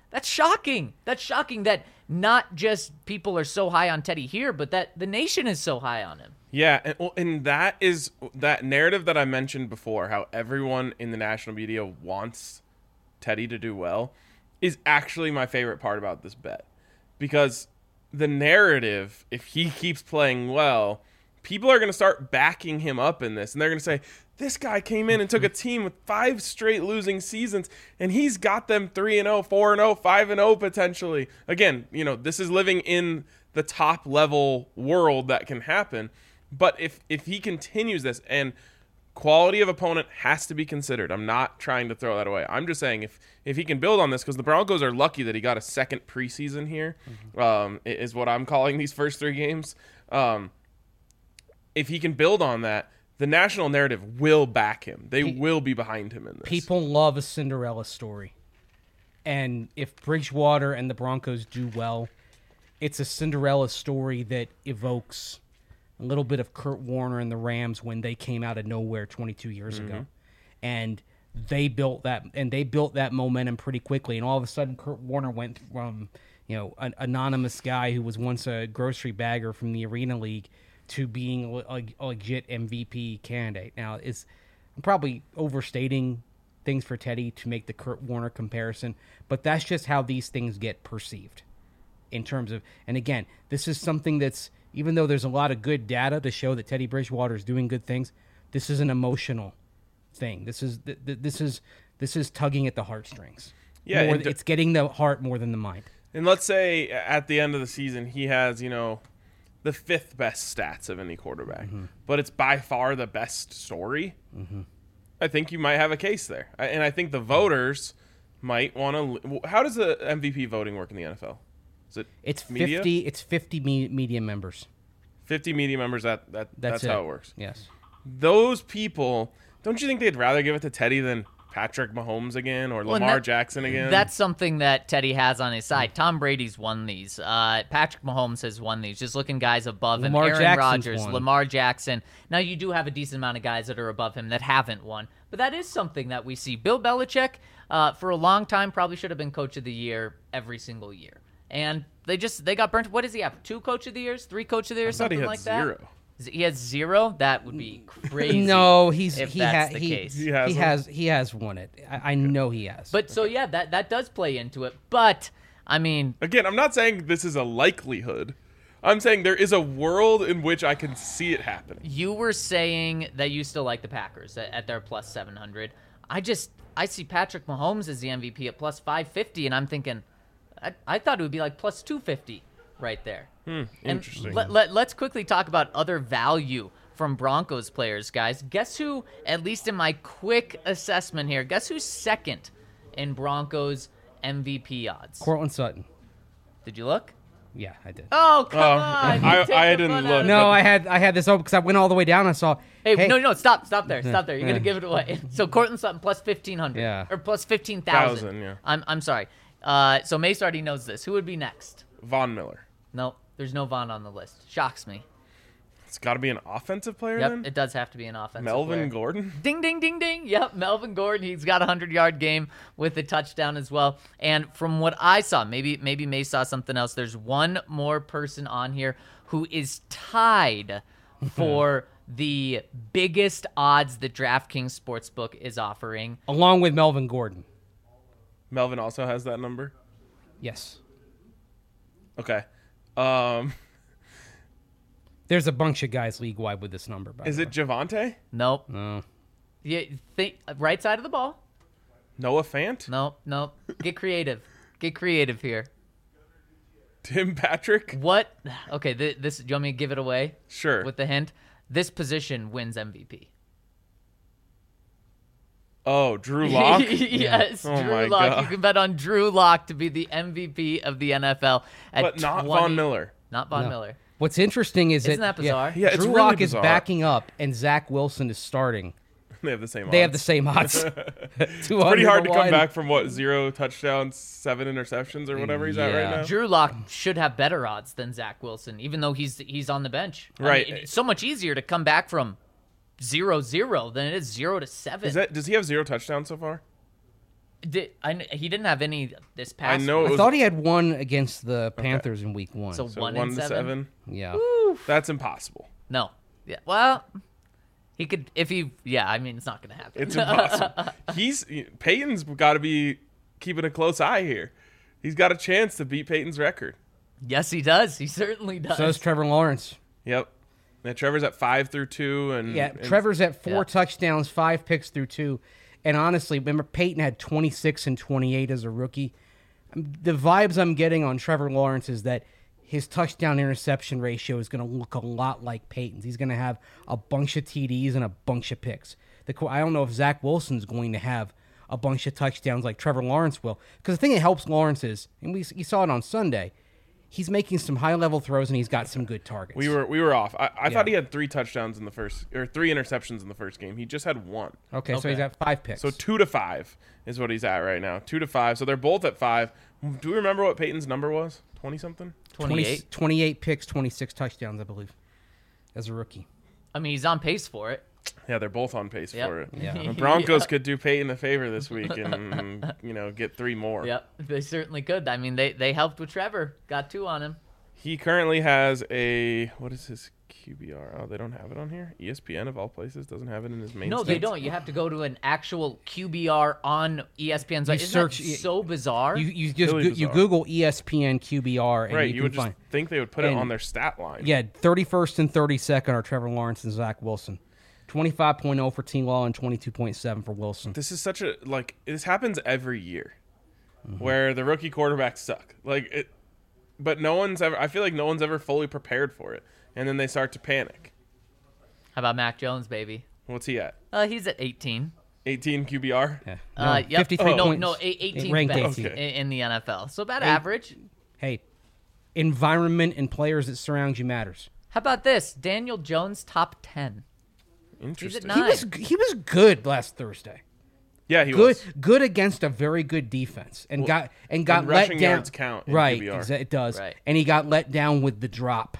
That's shocking. That's shocking that not just people are so high on Teddy here, but that the nation is so high on him. Yeah, and, well, and that is that narrative that I mentioned before, how everyone in the national media wants Teddy to do well, is actually my favorite part about this bet. Because the narrative, if he keeps playing well, people are going to start backing him up in this. And they're going to say, this guy came in and took a team with five straight losing seasons, and he's got them three and oh, four and oh, five and oh potentially. Again, you know, this is living in the top level world that can happen. But if if he continues this, and quality of opponent has to be considered. I'm not trying to throw that away. I'm just saying if if he can build on this, because the Broncos are lucky that he got a second preseason here, mm-hmm. um, is what I'm calling these first three games. Um, if he can build on that, the national narrative will back him. They Pe- will be behind him in this. People love a Cinderella story. And if Bridgewater and the Broncos do well, it's a Cinderella story that evokes a little bit of Kurt Warner and the Rams when they came out of nowhere twenty-two years mm-hmm. ago. And they built that and they built that momentum pretty quickly. And all of a sudden Kurt Warner went from, you know, an anonymous guy who was once a grocery bagger from the Arena League to being a, a legit M V P candidate. Now, is I'm probably overstating things for Teddy to make the Kurt Warner comparison, but that's just how these things get perceived in terms of, and again, this is something that's, even though there's a lot of good data to show that Teddy Bridgewater is doing good things, this is an emotional thing. This is th- th- this is this is tugging at the heartstrings. Yeah, more, d- it's getting the heart more than the mind. And let's say at the end of the season he has, you know, the fifth best stats of any quarterback, mm-hmm. but it's by far the best story. Mm-hmm. I think you might have a case there, and I think the voters might want to. How does the M V P voting work in the N F L? Is it it's media? fifty it's fifty me- media members. fifty media members, that, that that's, that's how it works. Yes. Those people, don't you think they'd rather give it to Teddy than Patrick Mahomes again or well, Lamar that, Jackson again? That's something that Teddy has on his side. Tom Brady's won these. Uh, Patrick Mahomes has won these. Just looking guys above Lamar him. Aaron Jackson's Rodgers, won. Lamar Jackson. Now you do have a decent amount of guys that are above him that haven't won. But that is something that we see. Bill Belichick, uh, for a long time, probably should have been Coach of the Year every single year. And they just they got burnt. What does he have? Two Coach of the Years? Three Coach of the Years? I thought he Something had like zero. that? He has zero? That would be crazy. No, he's if he, that's ha- the he, case. He has he one? has he has won it. I, I know he has. But so yeah, that that does play into it. But I mean, Again, I'm not saying this is a likelihood. I'm saying there is a world in which I can see it happening. you were saying that you still like the Packers at, at their plus seven hundred. I just I see Patrick Mahomes as the M V P at plus five fifty, and I'm thinking, I, I thought it would be like plus two fifty right there. Hmm, And interesting. Let, let, let's quickly talk about other value from Broncos players, guys. Guess who, at least in my quick assessment here, guess who's second in Broncos M V P odds? Cortland Sutton. Did you look? Yeah, I did. Oh, come Oh, on. I- You take I the didn't fun look. out of No, it. I had I had this open because I went all the way down. I saw. Hey, hey, no, no, stop, stop there, stop there. You're gonna give it away. So Cortland Sutton plus fifteen hundred, Yeah. or plus fifteen thousand. Thousand, yeah. I'm, I'm sorry. Uh, so Mace already knows this. Who would be next? Von Miller. No, there's no Vaughn on the list. Shocks me. It's got to be an offensive player Yep, then? it does have to be an offensive Melvin player. Gordon? Ding, ding, ding, ding. Yep, Melvin Gordon. He's got a hundred-yard game with a touchdown as well. And from what I saw, maybe maybe May saw something else. There's one more person on here who is tied for the biggest odds that DraftKings Sportsbook is offering. along with Melvin Gordon. Melvin also has that number? Yes. Okay. Um, There's a bunch of guys league wide with this number. By is the it Javante? Nope. way. No. Yeah, think right side of the ball. Noah Fant? Nope, nope. Get creative. Get creative here. Tim Patrick? What? Okay, th- this. Do you want me to give it away? Sure. With the hint, this position wins M V P. Oh, Drew Lock? Yes, Oh Drew my Lock. God. You can bet on Drew Lock to be the M V P of the N F L at But not twenty Von Miller. Not Von No. Miller. What's interesting is Isn't that, that bizarre? Yeah, it's Drew really Lock is bizarre. backing up and Zach Wilson is starting. They have the same odds. They have the same odds. Pretty hard to come back from, what, zero touchdowns, seven interceptions, or whatever he's at right Yeah. now? Drew Lock should have better odds than Zach Wilson, even though he's he's on the bench. I Right. mean, it's so much easier to come back from zero zero than it is zero to seven. Is that, does he have zero touchdowns so far? Did, I, kn- he didn't have any this I past. know it I was thought he had one against the Panthers in week one. So, so one, one and to seven. seven. yeah. That's impossible. No. Yeah. Well, he could if he. Yeah. I mean, it's not going to happen. It's impossible. He's Peyton's got to be keeping a close eye here. He's got a chance to beat Peyton's record. Yes, he does. He certainly does. So is Trevor Lawrence. Yep. And Trevor's at five through two, and Yeah, and Trevor's at four Yeah. touchdowns, five picks through two. And honestly, remember Peyton had twenty-six and twenty-eight as a rookie. Um, The vibes I'm getting on Trevor Lawrence is that his touchdown interception ratio is going to look a lot like Peyton's. He's going to have a bunch of T Ds and a bunch of picks. The qu- I don't know if Zach Wilson's going to have a bunch of touchdowns like Trevor Lawrence will. Because the thing that helps Lawrence is, and we you saw it on Sunday, he's making some high-level throws and he's got some good targets. we were we were off. I, I Yeah. thought he had three touchdowns in the first, or three interceptions in the first game. He just had one. Okay, so Okay. he's at five picks. So two to five is what he's at right now. Two to five. So they're both at five. Do we remember what Peyton's number was? Twenty something. twenty-eight. twenty-eight picks, twenty-six touchdowns, I believe, as a rookie. I mean, he's on pace for it. Yeah, they're both on pace Yep. for it. Yeah. The Broncos could do Peyton a favor this week and you know get three more. Yep, they certainly could. I mean, they they helped with Trevor. Got two on him. He currently has a what is his Q B R? Oh, they don't have it on here. E S P N of all places doesn't have it in his main. No, they stats. don't. You have to go to an actual Q B R on E S P N's. You Isn't search- that so bizarre? You you just Really go, you bizarre. Google E S P N Q B R and Right, you, you, can would just find. think they would put it and- on their stat line. Yeah, thirty-first and thirty-second are Trevor Lawrence and Zach Wilson. twenty-five point oh for T. Law and twenty-two point seven for Wilson. This is such a like this happens every year, Mm-hmm. where the rookie quarterbacks suck. Like it, but no one's ever. I feel like no one's ever fully prepared for it, and then they start to panic. How about Mac Jones, baby? What's he at? Uh, he's at eighteen. eighteen Q B R. Yeah. Uh, No, yep. fifty-three no, points. no, eight- eighteen ranked best eighteenth. in, in the N F L. So about Eight- average. Hey, environment and players that surround you matters. How about this? Daniel Jones, top ten. Interesting. nine. He was he was good last Thursday. Yeah, he Good was. good against a very good defense and got and got and let rushing down. yards count in right, Q B R. exa- it does. Right. And he got let down with the drop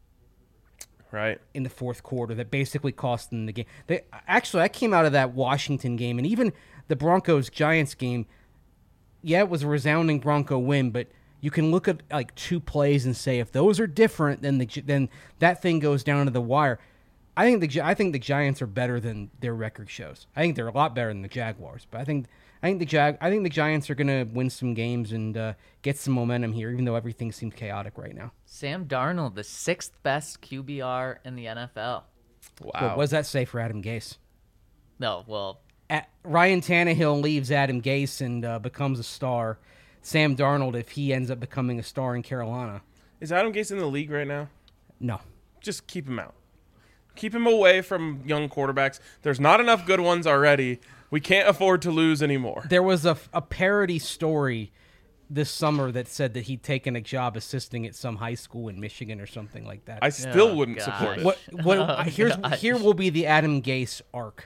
Right. in the fourth quarter that basically cost them the game. They actually I came out of that Washington game and even the Broncos Giants game. Yeah, it was a resounding Bronco win, but you can look at like two plays and say if those are different, then the Gi- then that thing goes down to the wire. I think the Gi- I think the Giants are better than their record shows. I think they're a lot better than the Jaguars, but I think I think the Jag I think the Giants are going to win some games and uh, get some momentum here, even though everything seems chaotic right now. Sam Darnold, the sixth best Q B R in the N F L. Wow. What does that say for Adam Gase? No, well, At, Ryan Tannehill leaves Adam Gase and uh, becomes a star. Sam Darnold, if he ends up becoming a star in Carolina, Is Adam Gase in the league right now? no. Just keep him out. Keep him away from young quarterbacks. There's not enough good ones already. We can't afford to lose anymore. There was a, a parody story this summer that said that he'd taken a job assisting at some high school in Michigan or something like that. I still Oh, wouldn't gosh. support it. What what Oh, here's gosh. here will be the Adam Gase arc.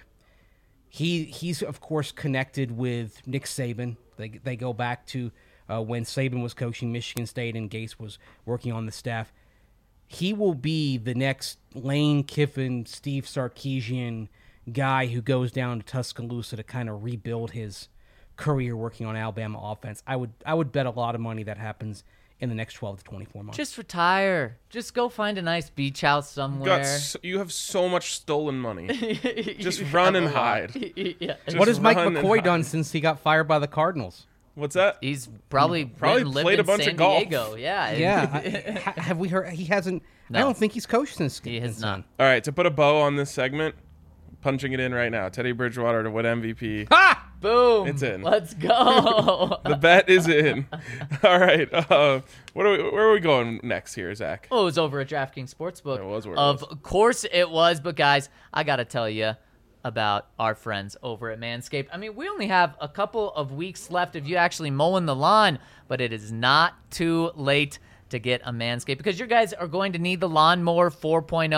He he's of course connected with Nick Saban. They they go back to uh, when Saban was coaching Michigan State and Gase was working on the staff. He will be the next Lane Kiffin, Steve Sarkisian guy who goes down to Tuscaloosa to kind of rebuild his career working on Alabama offense. I would I would bet a lot of money that happens in the next twelve to twenty-four months. just retire. Just go find a nice beach house You, got somewhere. so, you have so much stolen money. Just You run have and a lot. hide. yeah. Just what has Mike run and McCoy hide. done since he got fired by the Cardinals? What's that? He's probably Probably went and lived played a in bunch San of golf. Diego. Yeah. Yeah, I- ha- have we heard? He hasn't. I No. don't think he's coached since. He has since not. then. All right, to put a bow on this segment, punching it in right now. Teddy Bridgewater to win M V P. Ha! Boom. It's in. Let's go. The bet is in. All right. Uh, what are we, where are we going next here, Zach? Oh, it was over at DraftKings Sportsbook. It was where it of was. course it was, but guys, I got to tell you about our friends over at Manscaped. I mean, we only have a couple of weeks left of you actually mowing the lawn, but it is not too late to get a Manscaped because you guys are going to need the Lawnmower four point oh for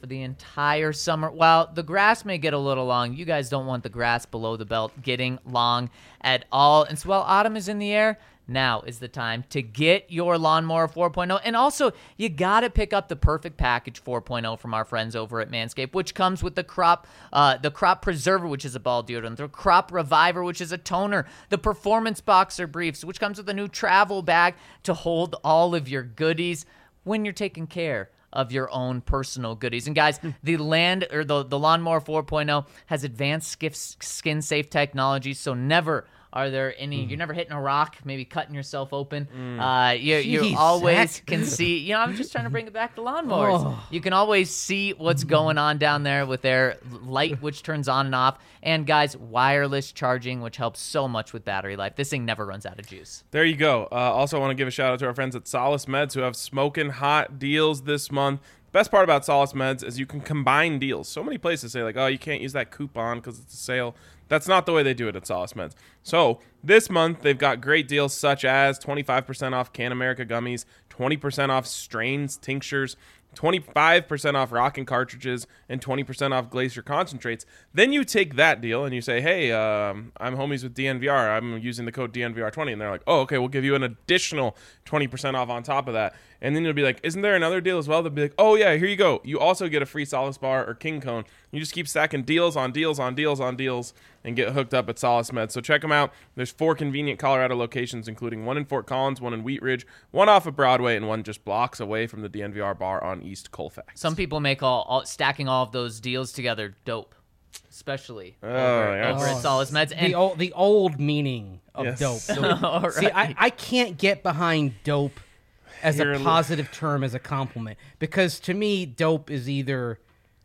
for the entire summer. While the grass may get a little long, you guys don't want the grass below the belt getting long at all. And so while autumn is in the air, now is the time to get your Lawnmower four point oh. And also, you got to pick up the Perfect Package four point oh from our friends over at Manscaped, which comes with the Crop uh, the Crop Preserver, which is a ball deodorant, the Crop Reviver, which is a toner, the Performance Boxer Briefs, which comes with a new travel bag to hold all of your goodies when you're taking care of your own personal goodies. And guys, the land or the, the Lawnmower four point oh has advanced skin safe technology, so never are there any, mm. you're never hitting a rock, maybe cutting yourself open. Mm. Uh, you Jeez, you always Zach. can see, you know, I'm just trying to bring it back to lawnmowers. Oh. You can always see what's going on down there with their light, which turns on and off. And guys, wireless charging, which helps so much with battery life. This thing never runs out of juice. There you go. Uh, also, I want to give a shout out to our friends at Solace Meds who have smoking hot deals this month. Best part about Solace Meds is you can combine deals. So many places say like, oh, you can't use that coupon because it's a sale. That's not the way they do it at Solace Meds. So this month, they've got great deals such as twenty-five percent off Can America gummies, twenty percent off strains, tinctures, twenty-five percent off Rockin' cartridges, and twenty percent off Glacier concentrates. Then you take that deal and you say, hey, um, I'm homies with D N V R. I'm using the code D N V R twenty. And they're like, oh, okay, we'll give you an additional twenty percent off on top of that. And then you'll be like, isn't there another deal as well? They'll be like, oh, yeah, here you go. You also get a free Solace Bar or King Cone. You just keep stacking deals on deals on deals on deals and get hooked up at Solace Med. So check them out. There's four convenient Colorado locations, including one in Fort Collins, one in Wheat Ridge, one off of Broadway, and one just blocks away from the D N V R bar on East Colfax. Some people make all, all stacking all of those deals together dope, especially Oh, over, yes. over at Solace Meds. And the old the old meaning of Yes. dope. All right. See, I, I can't get behind dope as Here, a look. positive term, as a compliment, because to me, dope is either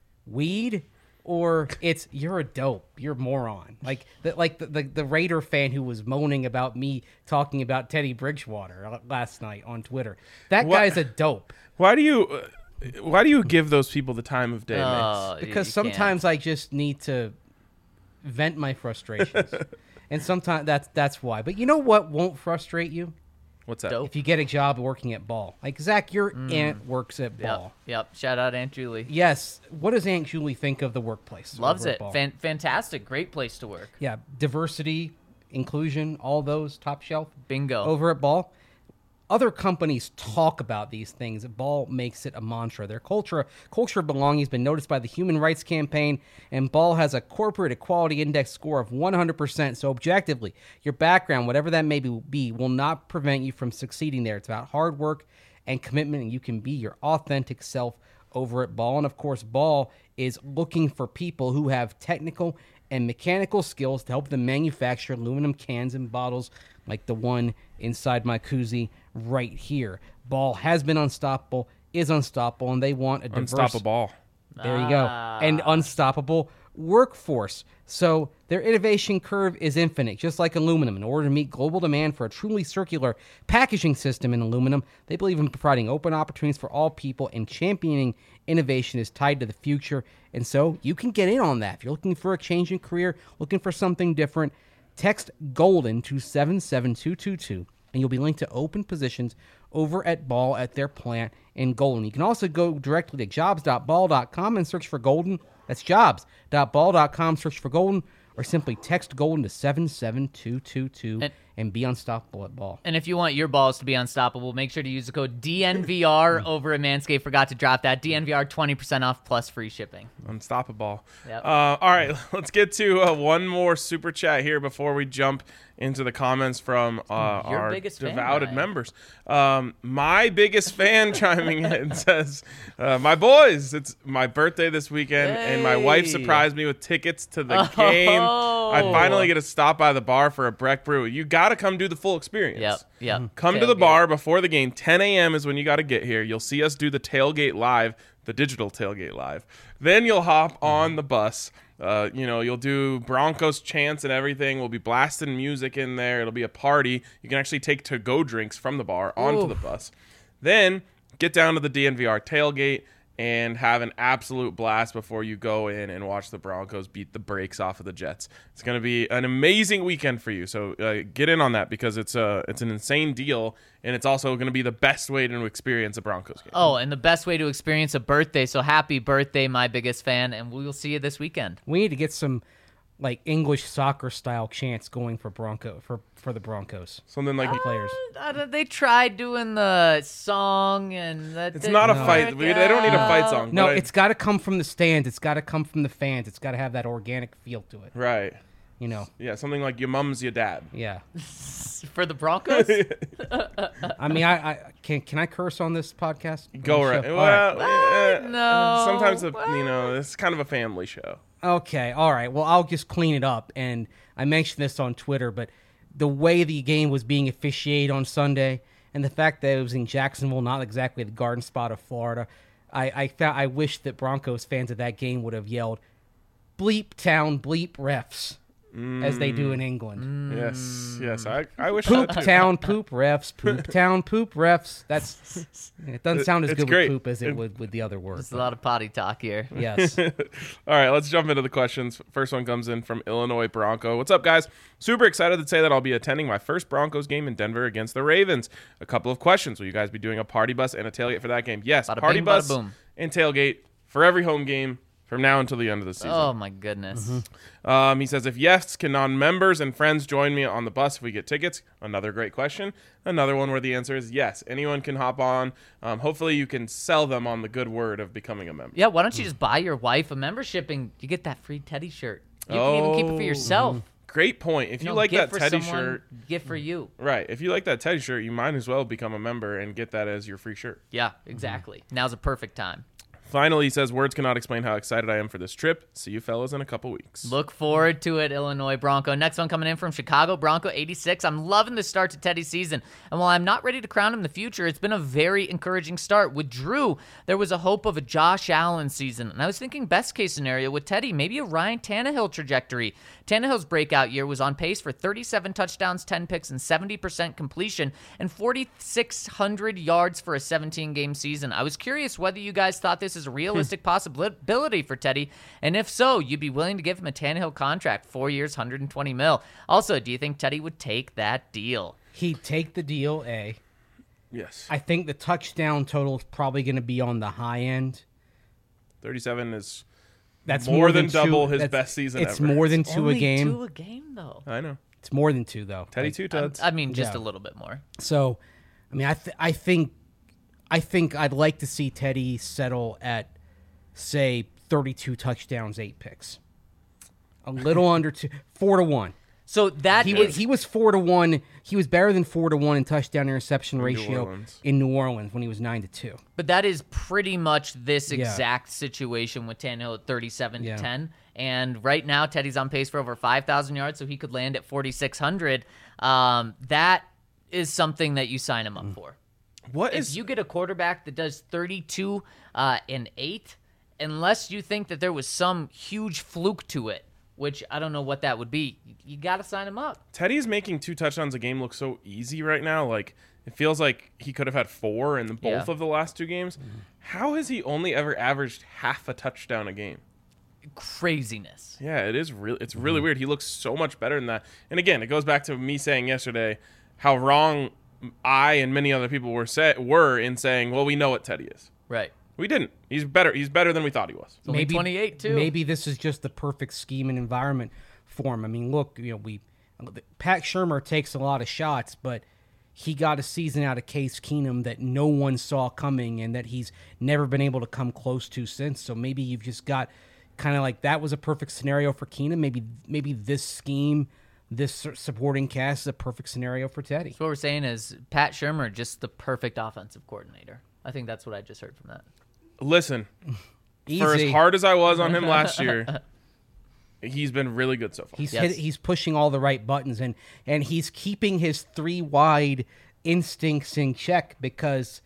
weed or it's you're a dope, you're a moron. Like the, like the, the the Raider fan who was moaning about me talking about Teddy Bridgewater last night on Twitter. That What? guy's a dope. Why do you uh, why do you give those people the time of day, Oh, Mace? you- Because you sometimes I just need to vent my frustrations, and sometimes that's that's why. But you know what won't frustrate you? What's that? Dope. If you get a job working at Ball. Like, Zach, your aunt works at can't. Ball. Yep, yep. Shout out Aunt Julie. Yes. What does Aunt Julie think of the workplace? Loves over at it. Ball? Fan- fantastic. Great place to work. Yeah, diversity, inclusion, all those, top shelf. Bingo. Over at Ball. Other companies talk about these things. Ball makes it a mantra. Their culture, culture of belonging has been noticed by the Human Rights Campaign, and Ball has a corporate equality index score of one hundred percent. So objectively, your background, whatever that may be, will not prevent you from succeeding there. It's about hard work and commitment, and you can be your authentic self over at Ball. And of course, Ball is looking for people who have technical and mechanical skills to help them manufacture aluminum cans and bottles like the one inside my koozie right here. Ball has been unstoppable, is unstoppable, and they want a diverse... Unstoppable. There you go. And unstoppable workforce. So their innovation curve is infinite, just like aluminum. In order to meet global demand for a truly circular packaging system in aluminum, they believe in providing open opportunities for all people, and championing innovation is tied to the future. And so you can get in on that. If you're looking for a change in career, looking for something different, text GOLDEN to seven seven two two two, and you'll be linked to open positions over at Ball at their plant in Golden. You can also go directly to jobs dot ball dot com and search for Golden. That's jobs dot ball dot com, search for Golden, or simply text Golden to seven seven two two two And- and be unstoppable at Ball. And if you want your balls to be unstoppable, make sure to use the code D N V R over at Manscaped. Forgot to drop that. D N V R twenty percent off plus free shipping. Unstoppable. Yep. Uh, all right, let's get to uh, one more super chat here before we jump into the comments from uh, Your our biggest fan, devoted Ryan. members. Um, my biggest fan chiming in says, uh, "My boys, it's my birthday this weekend, and my wife Hey. surprised me with tickets to the Oh. game. I finally get to stop by the bar for a Breck Brew. You got to come do the full experience. Yep, yep. Come to the Tailgate. bar before the game. ten a.m. is when you got to get here. You'll see us do the tailgate live, the digital tailgate live. Then you'll hop on the bus. Uh, you know, you'll do Broncos chants and everything. We'll be blasting music in there. It'll be a party. You can actually take to-go drinks from the bar onto Oof. the bus. Then get down to the D N V R tailgate, and have an absolute blast before you go in and watch the Broncos beat the brakes off of the Jets. It's going to be an amazing weekend for you. So uh, get in on that because it's a it's an insane deal, and it's also going to be the best way to experience a Broncos game. Oh, and the best way to experience a birthday. So happy birthday, my biggest fan, and we will see you this weekend. We need to get some like English soccer style chants going for Bronco for for the Broncos. Something like Players. I don't- they tried doing the song, and that it's didn't not a work fight. We, they don't need a fight out. song. No, but I- it's got to come from the stands. It's got to come from the fans. It's got to have that organic feel to it. right. You know. Yeah, something like your mom's your dad. Yeah. For the Broncos? I mean, I, I can can I curse on this podcast? Go On the right. show? Well, All eh, No. Sometimes the, you know it's kind of a family show. Okay, all right. Well, I'll just clean it up. And I mentioned this on Twitter, but the way the game was being officiated on Sunday and the fact that it was in Jacksonville, not exactly the garden spot of Florida, I I, found, I wish that Broncos fans of that game would have yelled, bleep town, bleep refs, as they do in England. Yes, yes. I, I wish Poop that too. town, poop refs, poop town, poop refs. That's It doesn't sound as It's good great. with poop as it It- would with the other words. There's a lot of potty talk here. Yes. All right, let's jump into the questions. First one comes in from Illinois Bronco. What's up, guys? Super excited to say that I'll be attending my first Broncos game in Denver against the Ravens. A couple of questions. Will you guys be doing a party bus and a tailgate for that game? Yes, Bada party bing, bada bus boom. and tailgate for every home game from now until the end of the season. Oh, my goodness. Um, he says, if yes, can non-members and friends join me on the bus if we get tickets? Another great question. Another one where the answer is yes. Anyone can hop on. Um, hopefully you can sell them on the good word of becoming a member. Yeah, why don't you just buy your wife a membership and you get that free Teddy shirt? You can even keep it for Oh. yourself. Great point. If you, know, like gift that for Teddy someone, shirt, gift for you. right, if you like that Teddy shirt, you might as well become a member and get that as your free shirt. Yeah, exactly. Now's a perfect time. Finally, he says, words cannot explain how excited I am for this trip. See you fellas in a couple weeks. Look forward to it, Illinois Bronco. Next one coming in from Chicago, Bronco eighty-six. I'm loving the start to Teddy's season. And while I'm not ready to crown him the future, it's been a very encouraging start. With Drew, there was a hope of a Josh Allen season. And I was thinking best case scenario with Teddy, maybe a Ryan Tannehill trajectory. Tannehill's breakout year was on pace for thirty-seven touchdowns, ten picks, and seventy percent completion, and forty-six hundred yards for a seventeen-game season. I was curious whether you guys thought this is a realistic possibility for Teddy, and if so, you'd be willing to give him a Tannehill contract, four years, one hundred twenty mil. Also, do you think Teddy would take that deal? He'd take the deal, A. Yes. I think the touchdown total is probably going to be on the high end. thirty-seven is That's more, more, than, two- double his that's- best season It's ever. more than two Only a game. two a game, though. I know. It's more than two though. Teddy Like, two tuds. I mean, just Yeah. a little bit more. So, I mean, I th- I think, I think I'd like to see Teddy settle at, say, thirty-two touchdowns, eight picks. A little under two, four to one. So that He is was he was four to one. He was better than four to one in touchdown interception ratio Orleans. in New Orleans when he was nine to two. But that is pretty much this Yeah. exact situation with Tannehill at thirty-seven Yeah. to ten. And right now, Teddy's on pace for over five thousand yards, so he could land at forty-six hundred. Um, that is something that you sign him up Mm. for. What If is you get a quarterback that does thirty-two uh, and eight, unless you think that there was some huge fluke to it, which I don't know what that would be, you, you got to sign him up. Teddy's making two touchdowns a game look so easy right now. Like it feels like he could have had four in the both Yeah. of the last two games. How has he only ever averaged half a touchdown a game? Craziness. Yeah, it is really it's really weird. He looks so much better than that. And again, it goes back to me saying yesterday how wrong I and many other people were say, were in saying, well, we know what Teddy is. Right. We didn't. He's better. He's better than we thought he was. It's only twenty-eight, too. Maybe this is just the perfect scheme and environment for him. I mean, look, you know, we Pat Shurmur takes a lot of shots, but he got a season out of Case Keenum that no one saw coming and that he's never been able to come close to since. So maybe you've just got kind of like that was a perfect scenario for Keenum. Maybe maybe this scheme, this su- supporting cast is a perfect scenario for Teddy. So what we're saying is Pat Shurmur, just the perfect offensive coordinator. I think that's what I just heard from that. Listen, for as Easy. hard as I was on him last year, he's been really good so far. He's Yes. hit, he's pushing all the right buttons and and he's keeping his three wide instincts in check because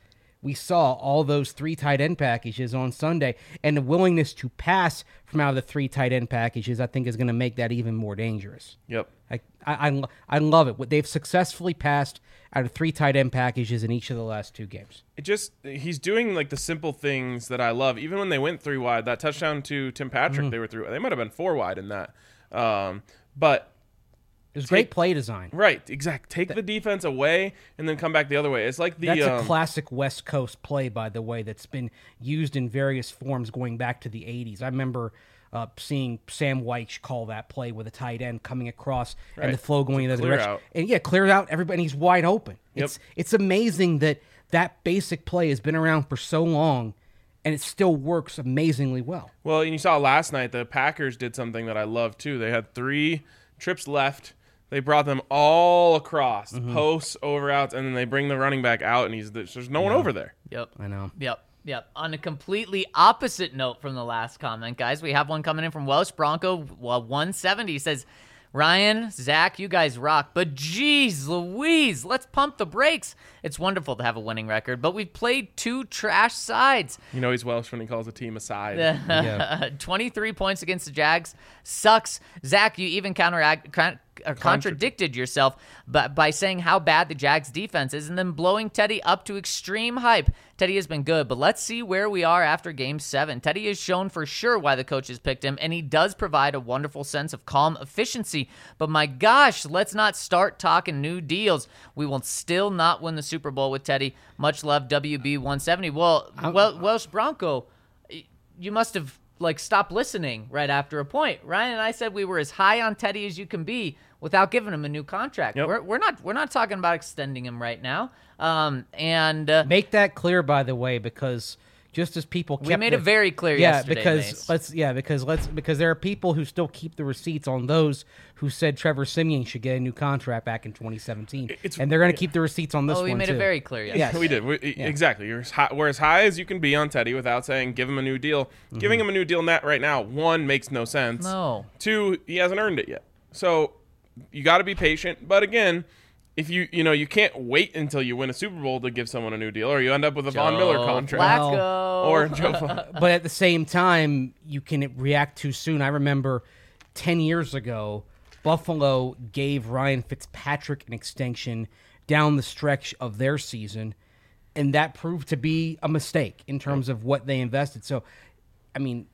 we saw all those three tight end packages on Sunday, and the willingness to pass from out of the three tight end packages, I think, is going to make that even more dangerous. Yep. I, I, I, I love it. What they've successfully passed out of three tight end packages in each of the last two games. It just he's doing like the simple things that I love. Even when they went three wide, that touchdown to Tim Patrick, Mm-hmm. they were through. They might have been four wide in that, um, but It was Take- great play design. right, exact. Take the defense away and then come back the other way. It's like the That's um, a classic West Coast play, by the way, that's been used in various forms going back to the eighties. I remember uh, seeing Sam White call that play with a tight end coming across Right. and the flow going in the clear direction. out. And yeah, cleared out everybody. He's wide open. Yep. It's it's amazing that that basic play has been around for so long, and it still works amazingly well. Well, and you saw last night the Packers did something that I love too. They had three trips left. They brought them all across, Mm-hmm. posts, over outs, and then they bring the running back out, and he's there's no one over there. Yep. I know. Yep. Yep. On a completely opposite note from the last comment, guys, we have one coming in from Welsh Bronco well, one seventy. He says, Ryan, Zach, you guys rock, but geez Louise, let's pump the brakes. It's wonderful to have a winning record, but we've played two trash sides. You know he's Welsh when he calls a team aside. Yeah. twenty-three points against the Jags sucks. Zach, you even counteract, con- or contradicted yourself but by saying how bad the Jags defense is and then blowing Teddy up to extreme hype. Teddy has been good, but let's see where we are after game seven. Teddy has shown for sure why the coaches picked him, and he does provide a wonderful sense of calm efficiency. But my gosh, let's not start talking new deals. We will still not win the Super Bowl with Teddy. Much love, W B one seventy. Well, well Welsh Bronco, you must have like stopped listening right after a point. Ryan and I said we were as high on Teddy as you can be without giving him a new contract. Yep. We're, we're not we're not talking about extending him right now. Um, and uh, Make that clear, by the way, because just as people kept we made the- it very clear yeah, yesterday. because Mace. let's yeah, because let's because there are people who still keep the receipts on those who said Trevor Siemian should get a new contract back in twenty seventeen, It's- and they're going to keep the receipts on this oh, one we made too. it very clear yesterday. Yes. We did. We, Exactly. You're as high, we're as high as you can be on Teddy without saying give him a new deal. Mm-hmm. Giving him a new deal net right now, one, makes no sense. No. Two, he hasn't earned it yet. So you got to be patient. But again, if you you know you can't wait until you win a Super Bowl to give someone a new deal, or you end up with a Von Miller Joe contract Flacco. or Joe. Fla- But at the same time, you can react too soon. I remember ten years ago, Buffalo gave Ryan Fitzpatrick an extension down the stretch of their season, and that proved to be a mistake in terms of what they invested. So, I mean,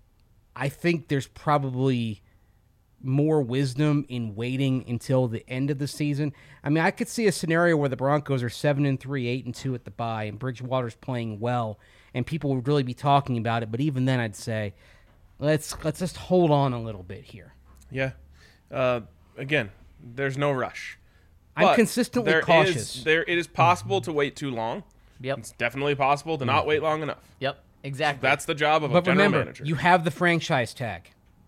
I think there's probably more wisdom in waiting until the end of the season. I mean, I could see a scenario where the Broncos are seven and three, eight and two at the bye, and Bridgewater's playing well, and people would really be talking about it. But even then, I'd say let's let's just hold on a little bit here. yeah. Uh, again, there's no rush. I'm But consistently there cautious. is- there, it is possible to wait too long. Yep. It's definitely possible to not wait long enough. Yep. Exactly. That's the job of a But general remember, manager. you have the franchise tag.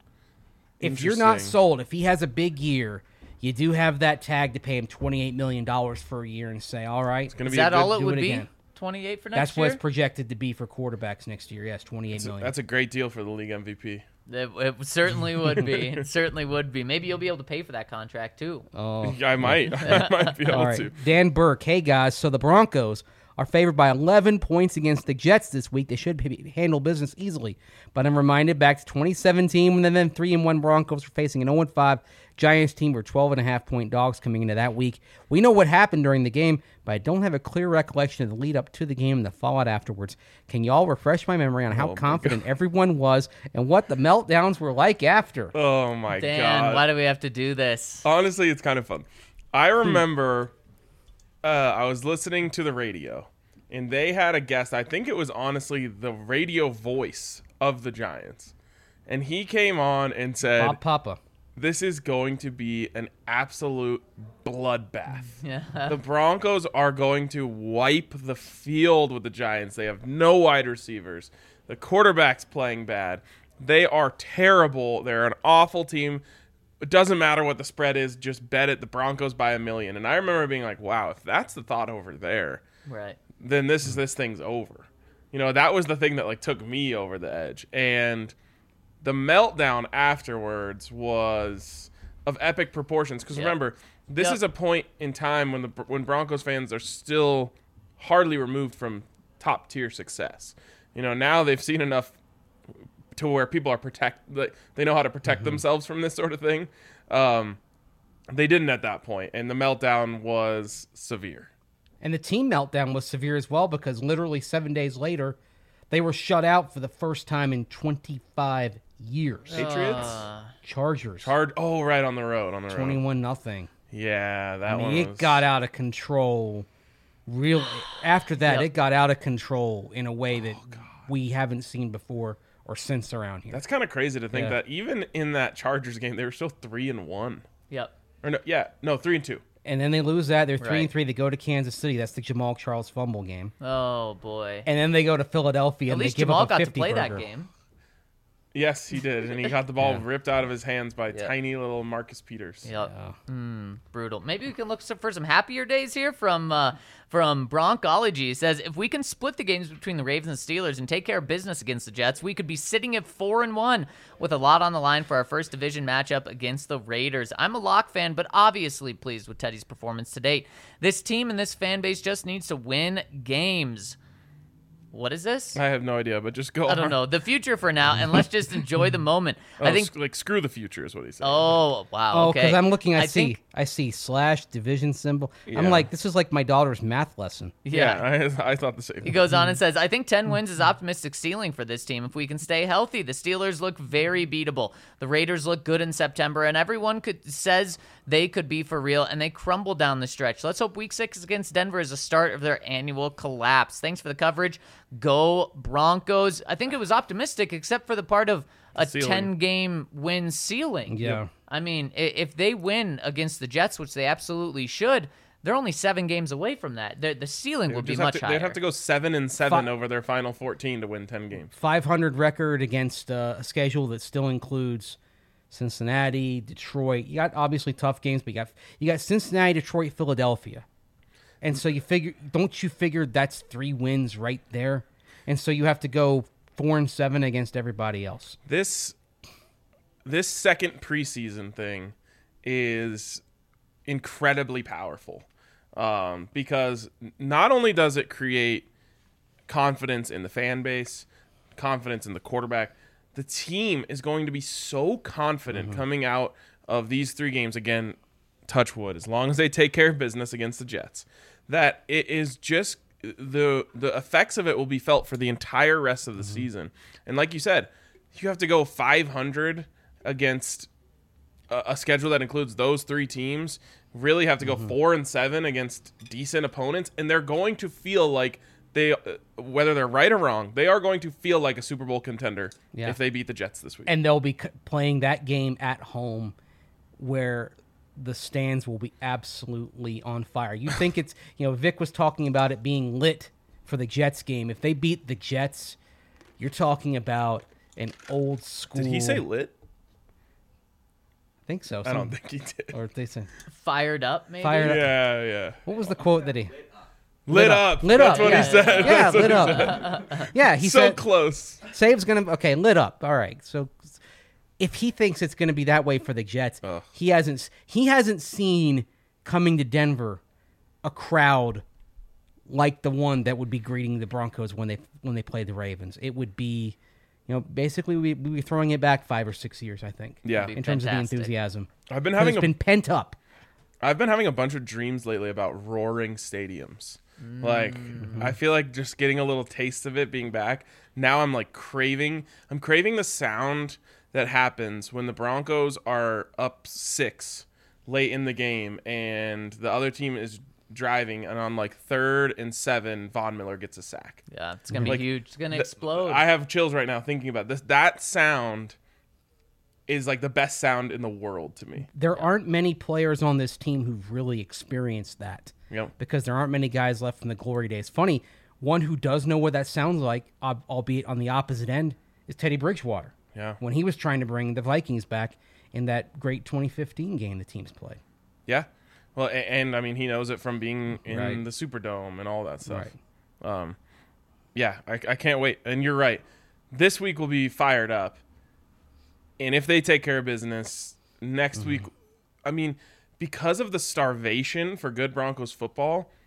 If you're not Interesting. sold, if he has a big year, you do have that tag to pay him twenty-eight million dollars for a year and say, all right, It's going to Is be a that good, all it do would it be? again. twenty-eight for next that's year? what it's projected to be for quarterbacks next year. Yes, twenty-eight that's, a, million. that's a great deal for the league M V P. It, it certainly would be. It certainly would be. Maybe you'll be able to pay for that contract too. Oh. I might. I might be able All right. to. Dan Burke. Hey, guys. So the Broncos are favored by eleven points against the Jets this week. They should be, handle business easily. But I'm reminded back to twenty seventeen when the then three and one Broncos were facing an oh and five Giants team who were twelve and a half point dogs coming into that week. We know what happened during the game, but I don't have a clear recollection of the lead up to the game and the fallout afterwards. Can y'all refresh my memory on how Oh my confident everyone was and what the meltdowns were like after? Oh, my Dan, God. why do we have to do this? Honestly, it's kind of fun. I remember uh, I was listening to the radio, and they had a guest. I think it was honestly the radio voice of the Giants. And he came on and said, Bob Papa. this is going to be an absolute bloodbath. Yeah. The Broncos are going to wipe the field with the Giants. They have no wide receivers. The quarterback's playing bad. They are terrible. They're an awful team. It doesn't matter what the spread is. Just bet it the Broncos by a million. And I remember being like, wow, if that's the thought over there, Right. then this is this thing's over. You know, that was the thing that like took me over the edge. And the meltdown afterwards was of epic proportions. Because Yep. remember, this Yep. is a point in time when the when Broncos fans are still hardly removed from top tier success. You know, now they've seen enough to where people are protect. Like, they know how to protect mm-hmm. themselves from this sort of thing. Um, they didn't at that point, and the meltdown was severe. And the team meltdown was severe as well because literally seven days later, they were shut out for the first time in twenty-five years. Patriots, Uh, Chargers, Char- Oh, right on the road, on the road. twenty-one nothing. Yeah, that I mean, one. it was... got out of control. Really, after that, Yep. it got out of control in a way that we haven't seen before or since around here. That's kind of crazy to think Yeah. that even in that Chargers game, they were still three and one. Yep. Or no, yeah, no, three and two. And then they lose that. They're three Right. and three. They go to Kansas City. That's the Jamal Charles fumble game. Oh boy. And then they go to Philadelphia. At and least they give Jamal up a got to fifty play burger. that game. Yes, he did, and he got the ball Yeah. ripped out of his hands by Yeah. tiny little Marcus Peters. Yep. Yeah. Mm, brutal. Maybe we can look some, for some happier days here from uh, from Broncology. It says if we can split the games between the Ravens and Steelers and take care of business against the Jets, we could be sitting at four and one with a lot on the line for our first division matchup against the Raiders. I'm a Lock fan, but obviously pleased with Teddy's performance to date. This team and this fan base just needs to win games. What is this? I have no idea, but just go. I don't on. know. The future for now, and let's just enjoy the moment. Oh, I think. sc- like screw the future is what he said. Oh wow. Oh, Okay. because I'm looking. I, I see. think- I see slash division symbol. Yeah. I'm like, this is like my daughter's math lesson. Yeah. I, I thought the same. He goes on and says, I think ten wins is optimistic ceiling for this team if we can stay healthy. The Steelers look very beatable. The Raiders look good in September, and everyone could says they could be for real, and they crumble down the stretch. Let's hope week six against Denver is the start of their annual collapse. Thanks for the coverage. Go Broncos. I think it was optimistic, except for the part of a Ceiling. ten-game win ceiling. Yeah. I mean, i- if they win against the Jets, which they absolutely should, they're only seven games away from that. The, the ceiling They would be just have much to- higher. They'd have to go seven and seven Fi- over their final fourteen to win ten games. five hundred record against uh, a schedule that still includes Cincinnati, Detroit. You got obviously tough games, but you got you got Cincinnati, Detroit, Philadelphia, and so you figure, don't you figure that's three wins right there? And so you have to go four and seven against everybody else. This this second preseason thing is incredibly powerful um, because not only does it create confidence in the fan base, confidence in the quarterback, the team is going to be so confident Mm-hmm. coming out of these three games, again, touch wood, as long as they take care of business against the Jets, that it is just the the effects of it will be felt for the entire rest of the Mm-hmm. season. And like you said, you have to go five hundred against a, a schedule that includes those three teams, really have to go Mm-hmm. four and seven against decent opponents, and they're going to feel like they, uh, whether they're right or wrong, they are going to feel like a Super Bowl contender Yeah. if they beat the Jets this week. And they'll be c- playing that game at home where the stands will be absolutely on fire. You think it's, you know, Vic was talking about it being lit for the Jets game. If they beat the Jets, you're talking about an old school. Did he say lit? I think so. I Some- don't think he did. Or they say, Fired up, maybe? Fired up. Yeah, yeah. what was the quote that he? Lit up. Lit That's up. what yeah. he said. Yeah, That's what lit he up. said. Yeah, he so said. close. Save's gonna okay, lit up. All right. So if he thinks it's gonna be that way for the Jets, Ugh. he hasn't he hasn't seen coming to Denver a crowd like the one that would be greeting the Broncos when they when they play the Ravens. It would be, you know, basically we we'd be throwing it back five or six years, I think. Yeah. Be In terms fantastic. of the enthusiasm. I've been 'Cause having it's a been pent up. I've been having a bunch of dreams lately about roaring stadiums. Like, I feel like just getting a little taste of it being back. Now I'm like craving, I'm craving the sound that happens when the Broncos are up six late in the game and the other team is driving, and on like third and seven, Von Miller gets a sack. Yeah, it's going to be Like, huge. It's going to Th- explode. I have chills right now thinking about this. That sound is like the best sound in the world to me. There aren't many players on this team who've really experienced that. Yep. Because there aren't many guys left from the glory days. Funny, one who does know what that sounds like, ob- albeit on the opposite end, is Teddy Bridgewater. Yeah. When he was trying to bring the Vikings back in that great twenty fifteen game the teams played. Yeah. Well, and, and I mean, he knows it from being in Right. the Superdome and all that stuff. Right. Um, yeah, I, I can't wait. And you're right. This week will be fired up. And if they take care of business next Mm-hmm. week, I mean, because of the starvation for good Broncos football,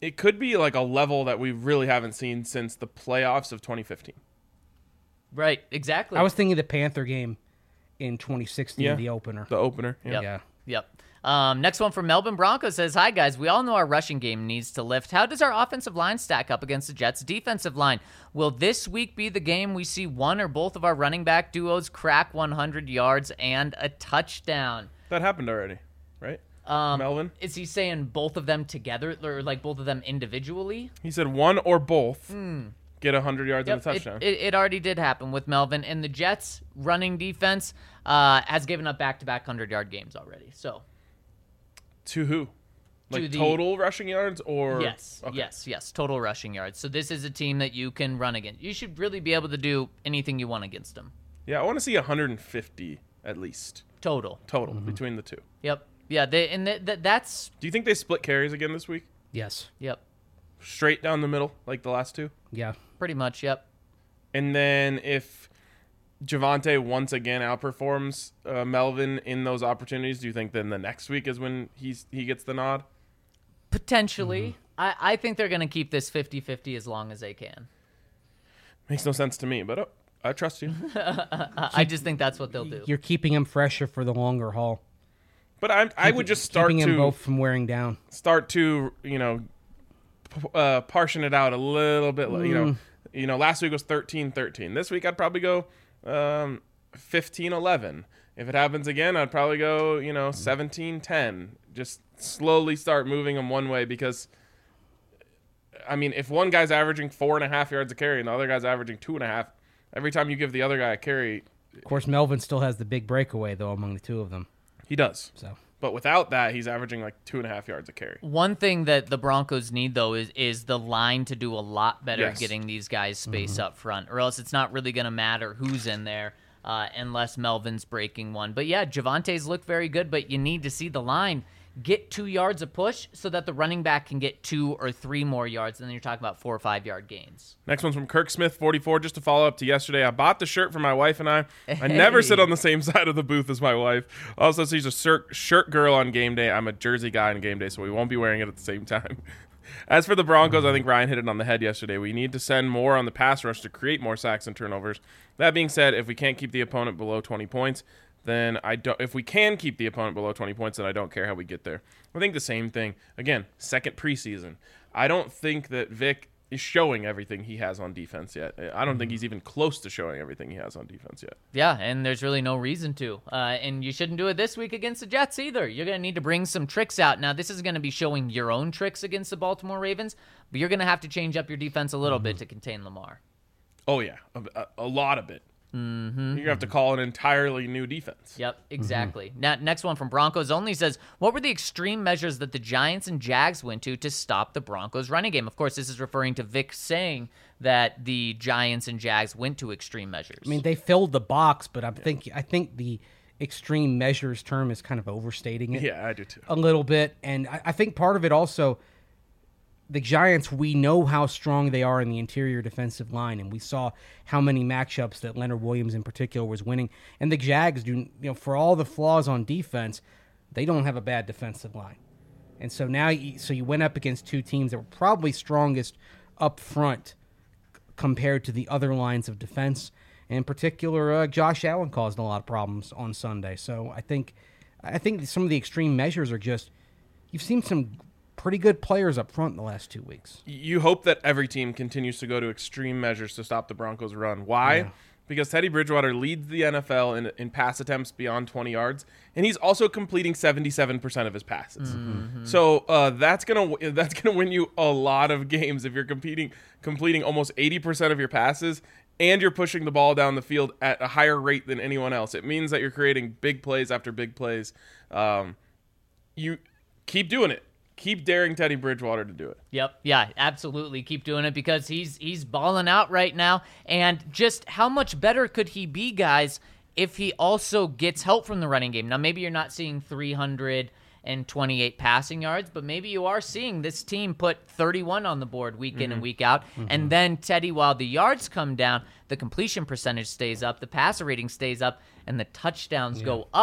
it could be like a level that we really haven't seen since the playoffs of twenty fifteen. Right, exactly. I was thinking the Panther game in twenty sixteen, Yeah. the opener. The opener. Yeah. Yep. Yeah. Yep. Um, next one from Melbourne Broncos says, "Hi guys, we all know our rushing game needs to lift. How does our offensive line stack up against the Jets' defensive line? Will this week be the game we see one or both of our running back duos crack one hundred yards and a touchdown?" That happened already, right? Um, Melvin? Is he saying both of them together, or like both of them individually? He said one or both get one hundred yards Yep, and a touchdown. It, it, it already did happen with Melvin, and the Jets' running defense uh, has given up back-to-back hundred-yard games already. So to who? To Like the- total rushing yards or? yes, Okay. yes, yes, total rushing yards. So this is a team that you can run against. You should really be able to do anything you want against them. Yeah, I want to see one hundred fifty at least Total. total between the two. Yep. Yeah. They and th- th- that's Do you think they split carries again this week? Yes. yep. Straight down the middle like the last two? Yeah. Pretty much. Yep. And then if Javonte once again outperforms uh, Melvin in those opportunities, do you think then the next week is when he's he gets the nod? Potentially. I, I think they're going to keep this fifty-fifty as long as they can. Makes no sense to me, but oh, I trust you. I, I just think that's what they'll do. You're keeping him fresher for the longer haul. But I I would just start keeping him to both from wearing down. start to you know p- uh, portion it out a little bit. You know, you know. Last week was thirteen thirteen. This week I'd probably go um, fifteen eleven. If it happens again, I'd probably go you know seventeen ten. Just slowly start moving them one way because. I mean, if one guy's averaging four and a half yards a carry and the other guy's averaging two and a half, every time you give the other guy a carry, Of course, Melvin still has the big breakaway, though, among the two of them. he does. So But without that, he's averaging like two and a half yards a carry. One thing that the Broncos need, though, is is the line to do a lot better Yes. at getting these guys space up front, or else it's not really going to matter who's in there uh, unless Melvin's breaking one. But yeah, Javonte's looked very good, but you need to see the line get two yards a push so that the running back can get two or three more yards, and then you're talking about four or five yard gains. Next one's from Kirk Smith, forty-four. Just to follow up to yesterday, I bought the shirt for my wife and I. I never sit on the same side of the booth as my wife. Also, she's a shirt, shirt girl on game day. I'm a jersey guy on game day, so we won't be wearing it at the same time. As for the Broncos, I think Ryan hit it on the head yesterday. We need to send more on the pass rush to create more sacks and turnovers. That being said, if we can't keep the opponent below twenty points, then I don't. If we can keep the opponent below twenty points, then I don't care how we get there. I think the same thing. Again, second preseason. I don't think that Vic is showing everything he has on defense yet. I don't think he's even close to showing everything he has on defense yet. Yeah, and there's really no reason to. Uh, and you shouldn't do it this week against the Jets either. You're going to need to bring some tricks out. Now, this is going to be showing your own tricks against the Baltimore Ravens, but you're going to have to change up your defense a little bit to contain Lamar. Oh yeah, a, a, a lot of it. Mm-hmm. You're gonna have to call an entirely new defense. Yep, exactly. Mm-hmm. Now, next one from Broncos Only says, what were the extreme measures that the Giants and Jags went to to stop the Broncos running game? Of course, this is referring to Vic saying that the Giants and Jags went to extreme measures. I mean, they filled the box, but I'm think I think the extreme measures term is kind of overstating it Yeah, I do too. a little bit, and I, I think part of it also. The Giants, we know how strong they are in the interior defensive line, and we saw how many matchups that Leonard Williams in particular was winning. And the Jags do, you know, for all the flaws on defense, they don't have a bad defensive line. And so now, you, so you went up against two teams that were probably strongest up front c- compared to the other lines of defense. And in particular, uh, Josh Allen caused a lot of problems on Sunday. So I think, I think some of the extreme measures are just, you've seen some pretty good players up front in the last two weeks. You hope that every team continues to go to extreme measures to stop the Broncos' run. Why? Yeah. Because Teddy Bridgewater leads the N F L in, in pass attempts beyond twenty yards, and he's also completing seventy-seven percent of his passes. Mm-hmm. So uh, that's gonna that's gonna win you a lot of games if you're competing completing almost eighty percent of your passes and you're pushing the ball down the field at a higher rate than anyone else. It means that you're creating big plays after big plays. Um, you keep doing it. Keep daring Teddy Bridgewater to do it. Yep. Yeah, absolutely. Keep doing it because he's he's balling out right now. And just how much better could he be, guys, if he also gets help from the running game? Now, maybe you're not seeing three hundred twenty-eight passing yards, but maybe you are seeing this team put thirty-one on the board week in mm-hmm. and week out. Mm-hmm. And then Teddy, while the yards come down, the completion percentage stays up, the passer rating stays up, and the touchdowns yeah. go up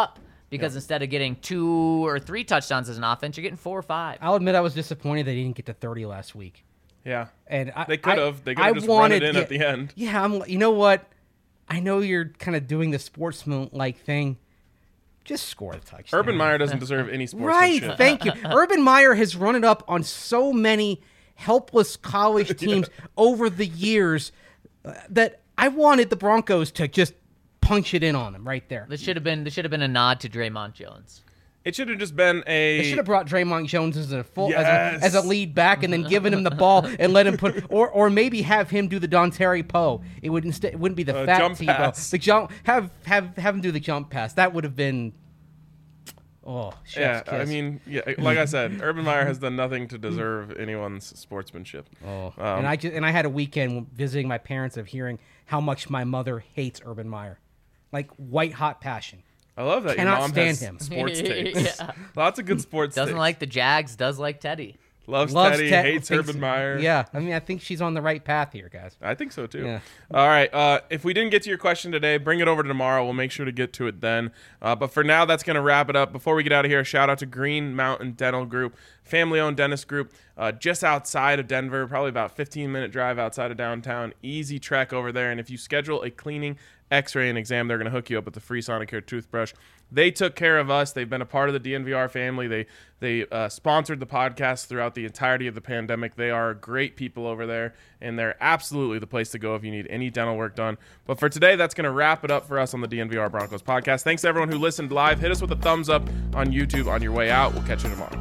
because instead of getting two or three touchdowns as an offense, you're getting four or five. I'll admit I was disappointed they didn't get to thirty last week. Yeah. And I, They could I- have. They could I have just wanted, run it in yeah, at the end. Yeah, I'm. You know what? I know you're kind of doing the sportsman-like thing. Just score the touchdown. Urban Meyer doesn't deserve any sportsmanship. Right, thank you. Urban Meyer has run it up on so many helpless college teams over the years uh, that I wanted the Broncos to just punch it in on them right there. This should have been this should have been a nod to Draymond Jones. It should have just been a. They should have brought Draymond Jones as a full Yes. as, a, as a lead back and then given him the ball and let him put or or maybe have him do the Don Terry Poe. It would instead it wouldn't be the Uh, fat jump Tebow. pass. The jump have have have him do the jump pass. That would have been oh chef's Yeah, kiss. I mean, yeah, like I said, Urban Meyer has done nothing to deserve anyone's sportsmanship. Oh, Um, and I just and I had a weekend visiting my parents of hearing how much my mother hates Urban Meyer, like white hot passion. I love that your Cannot mom stand has him. sports takes. Yeah. Lots of good sports Doesn't takes. like the Jags, does like Teddy. Loves, Loves Teddy, Ted- hates thinks- Urban Meyer. Yeah, I mean I think she's on the right path here, guys. I think so too. Yeah. All right. Uh, if we didn't get to your question today, bring it over to tomorrow. We'll make sure to get to it then. Uh, but for now, that's going to wrap it up. Before we get out of here, shout out to Green Mountain Dental Group, family-owned dentist group, uh, just outside of Denver, probably about fifteen minute drive outside of downtown. Easy trek over there. And if you schedule a cleaning, X-ray, and exam, they're going to hook you up with the free Sonicare toothbrush. They took care of us. They've been a part of the D N V R family. They they uh, sponsored the podcast throughout the entirety of the pandemic. They are great people over there, and they're absolutely the place to go if you need any dental work done. But for today, that's going to wrap it up for us on the D N V R Broncos podcast. Thanks to everyone who listened live. Hit us with a thumbs up on YouTube on your way out. We'll catch you tomorrow.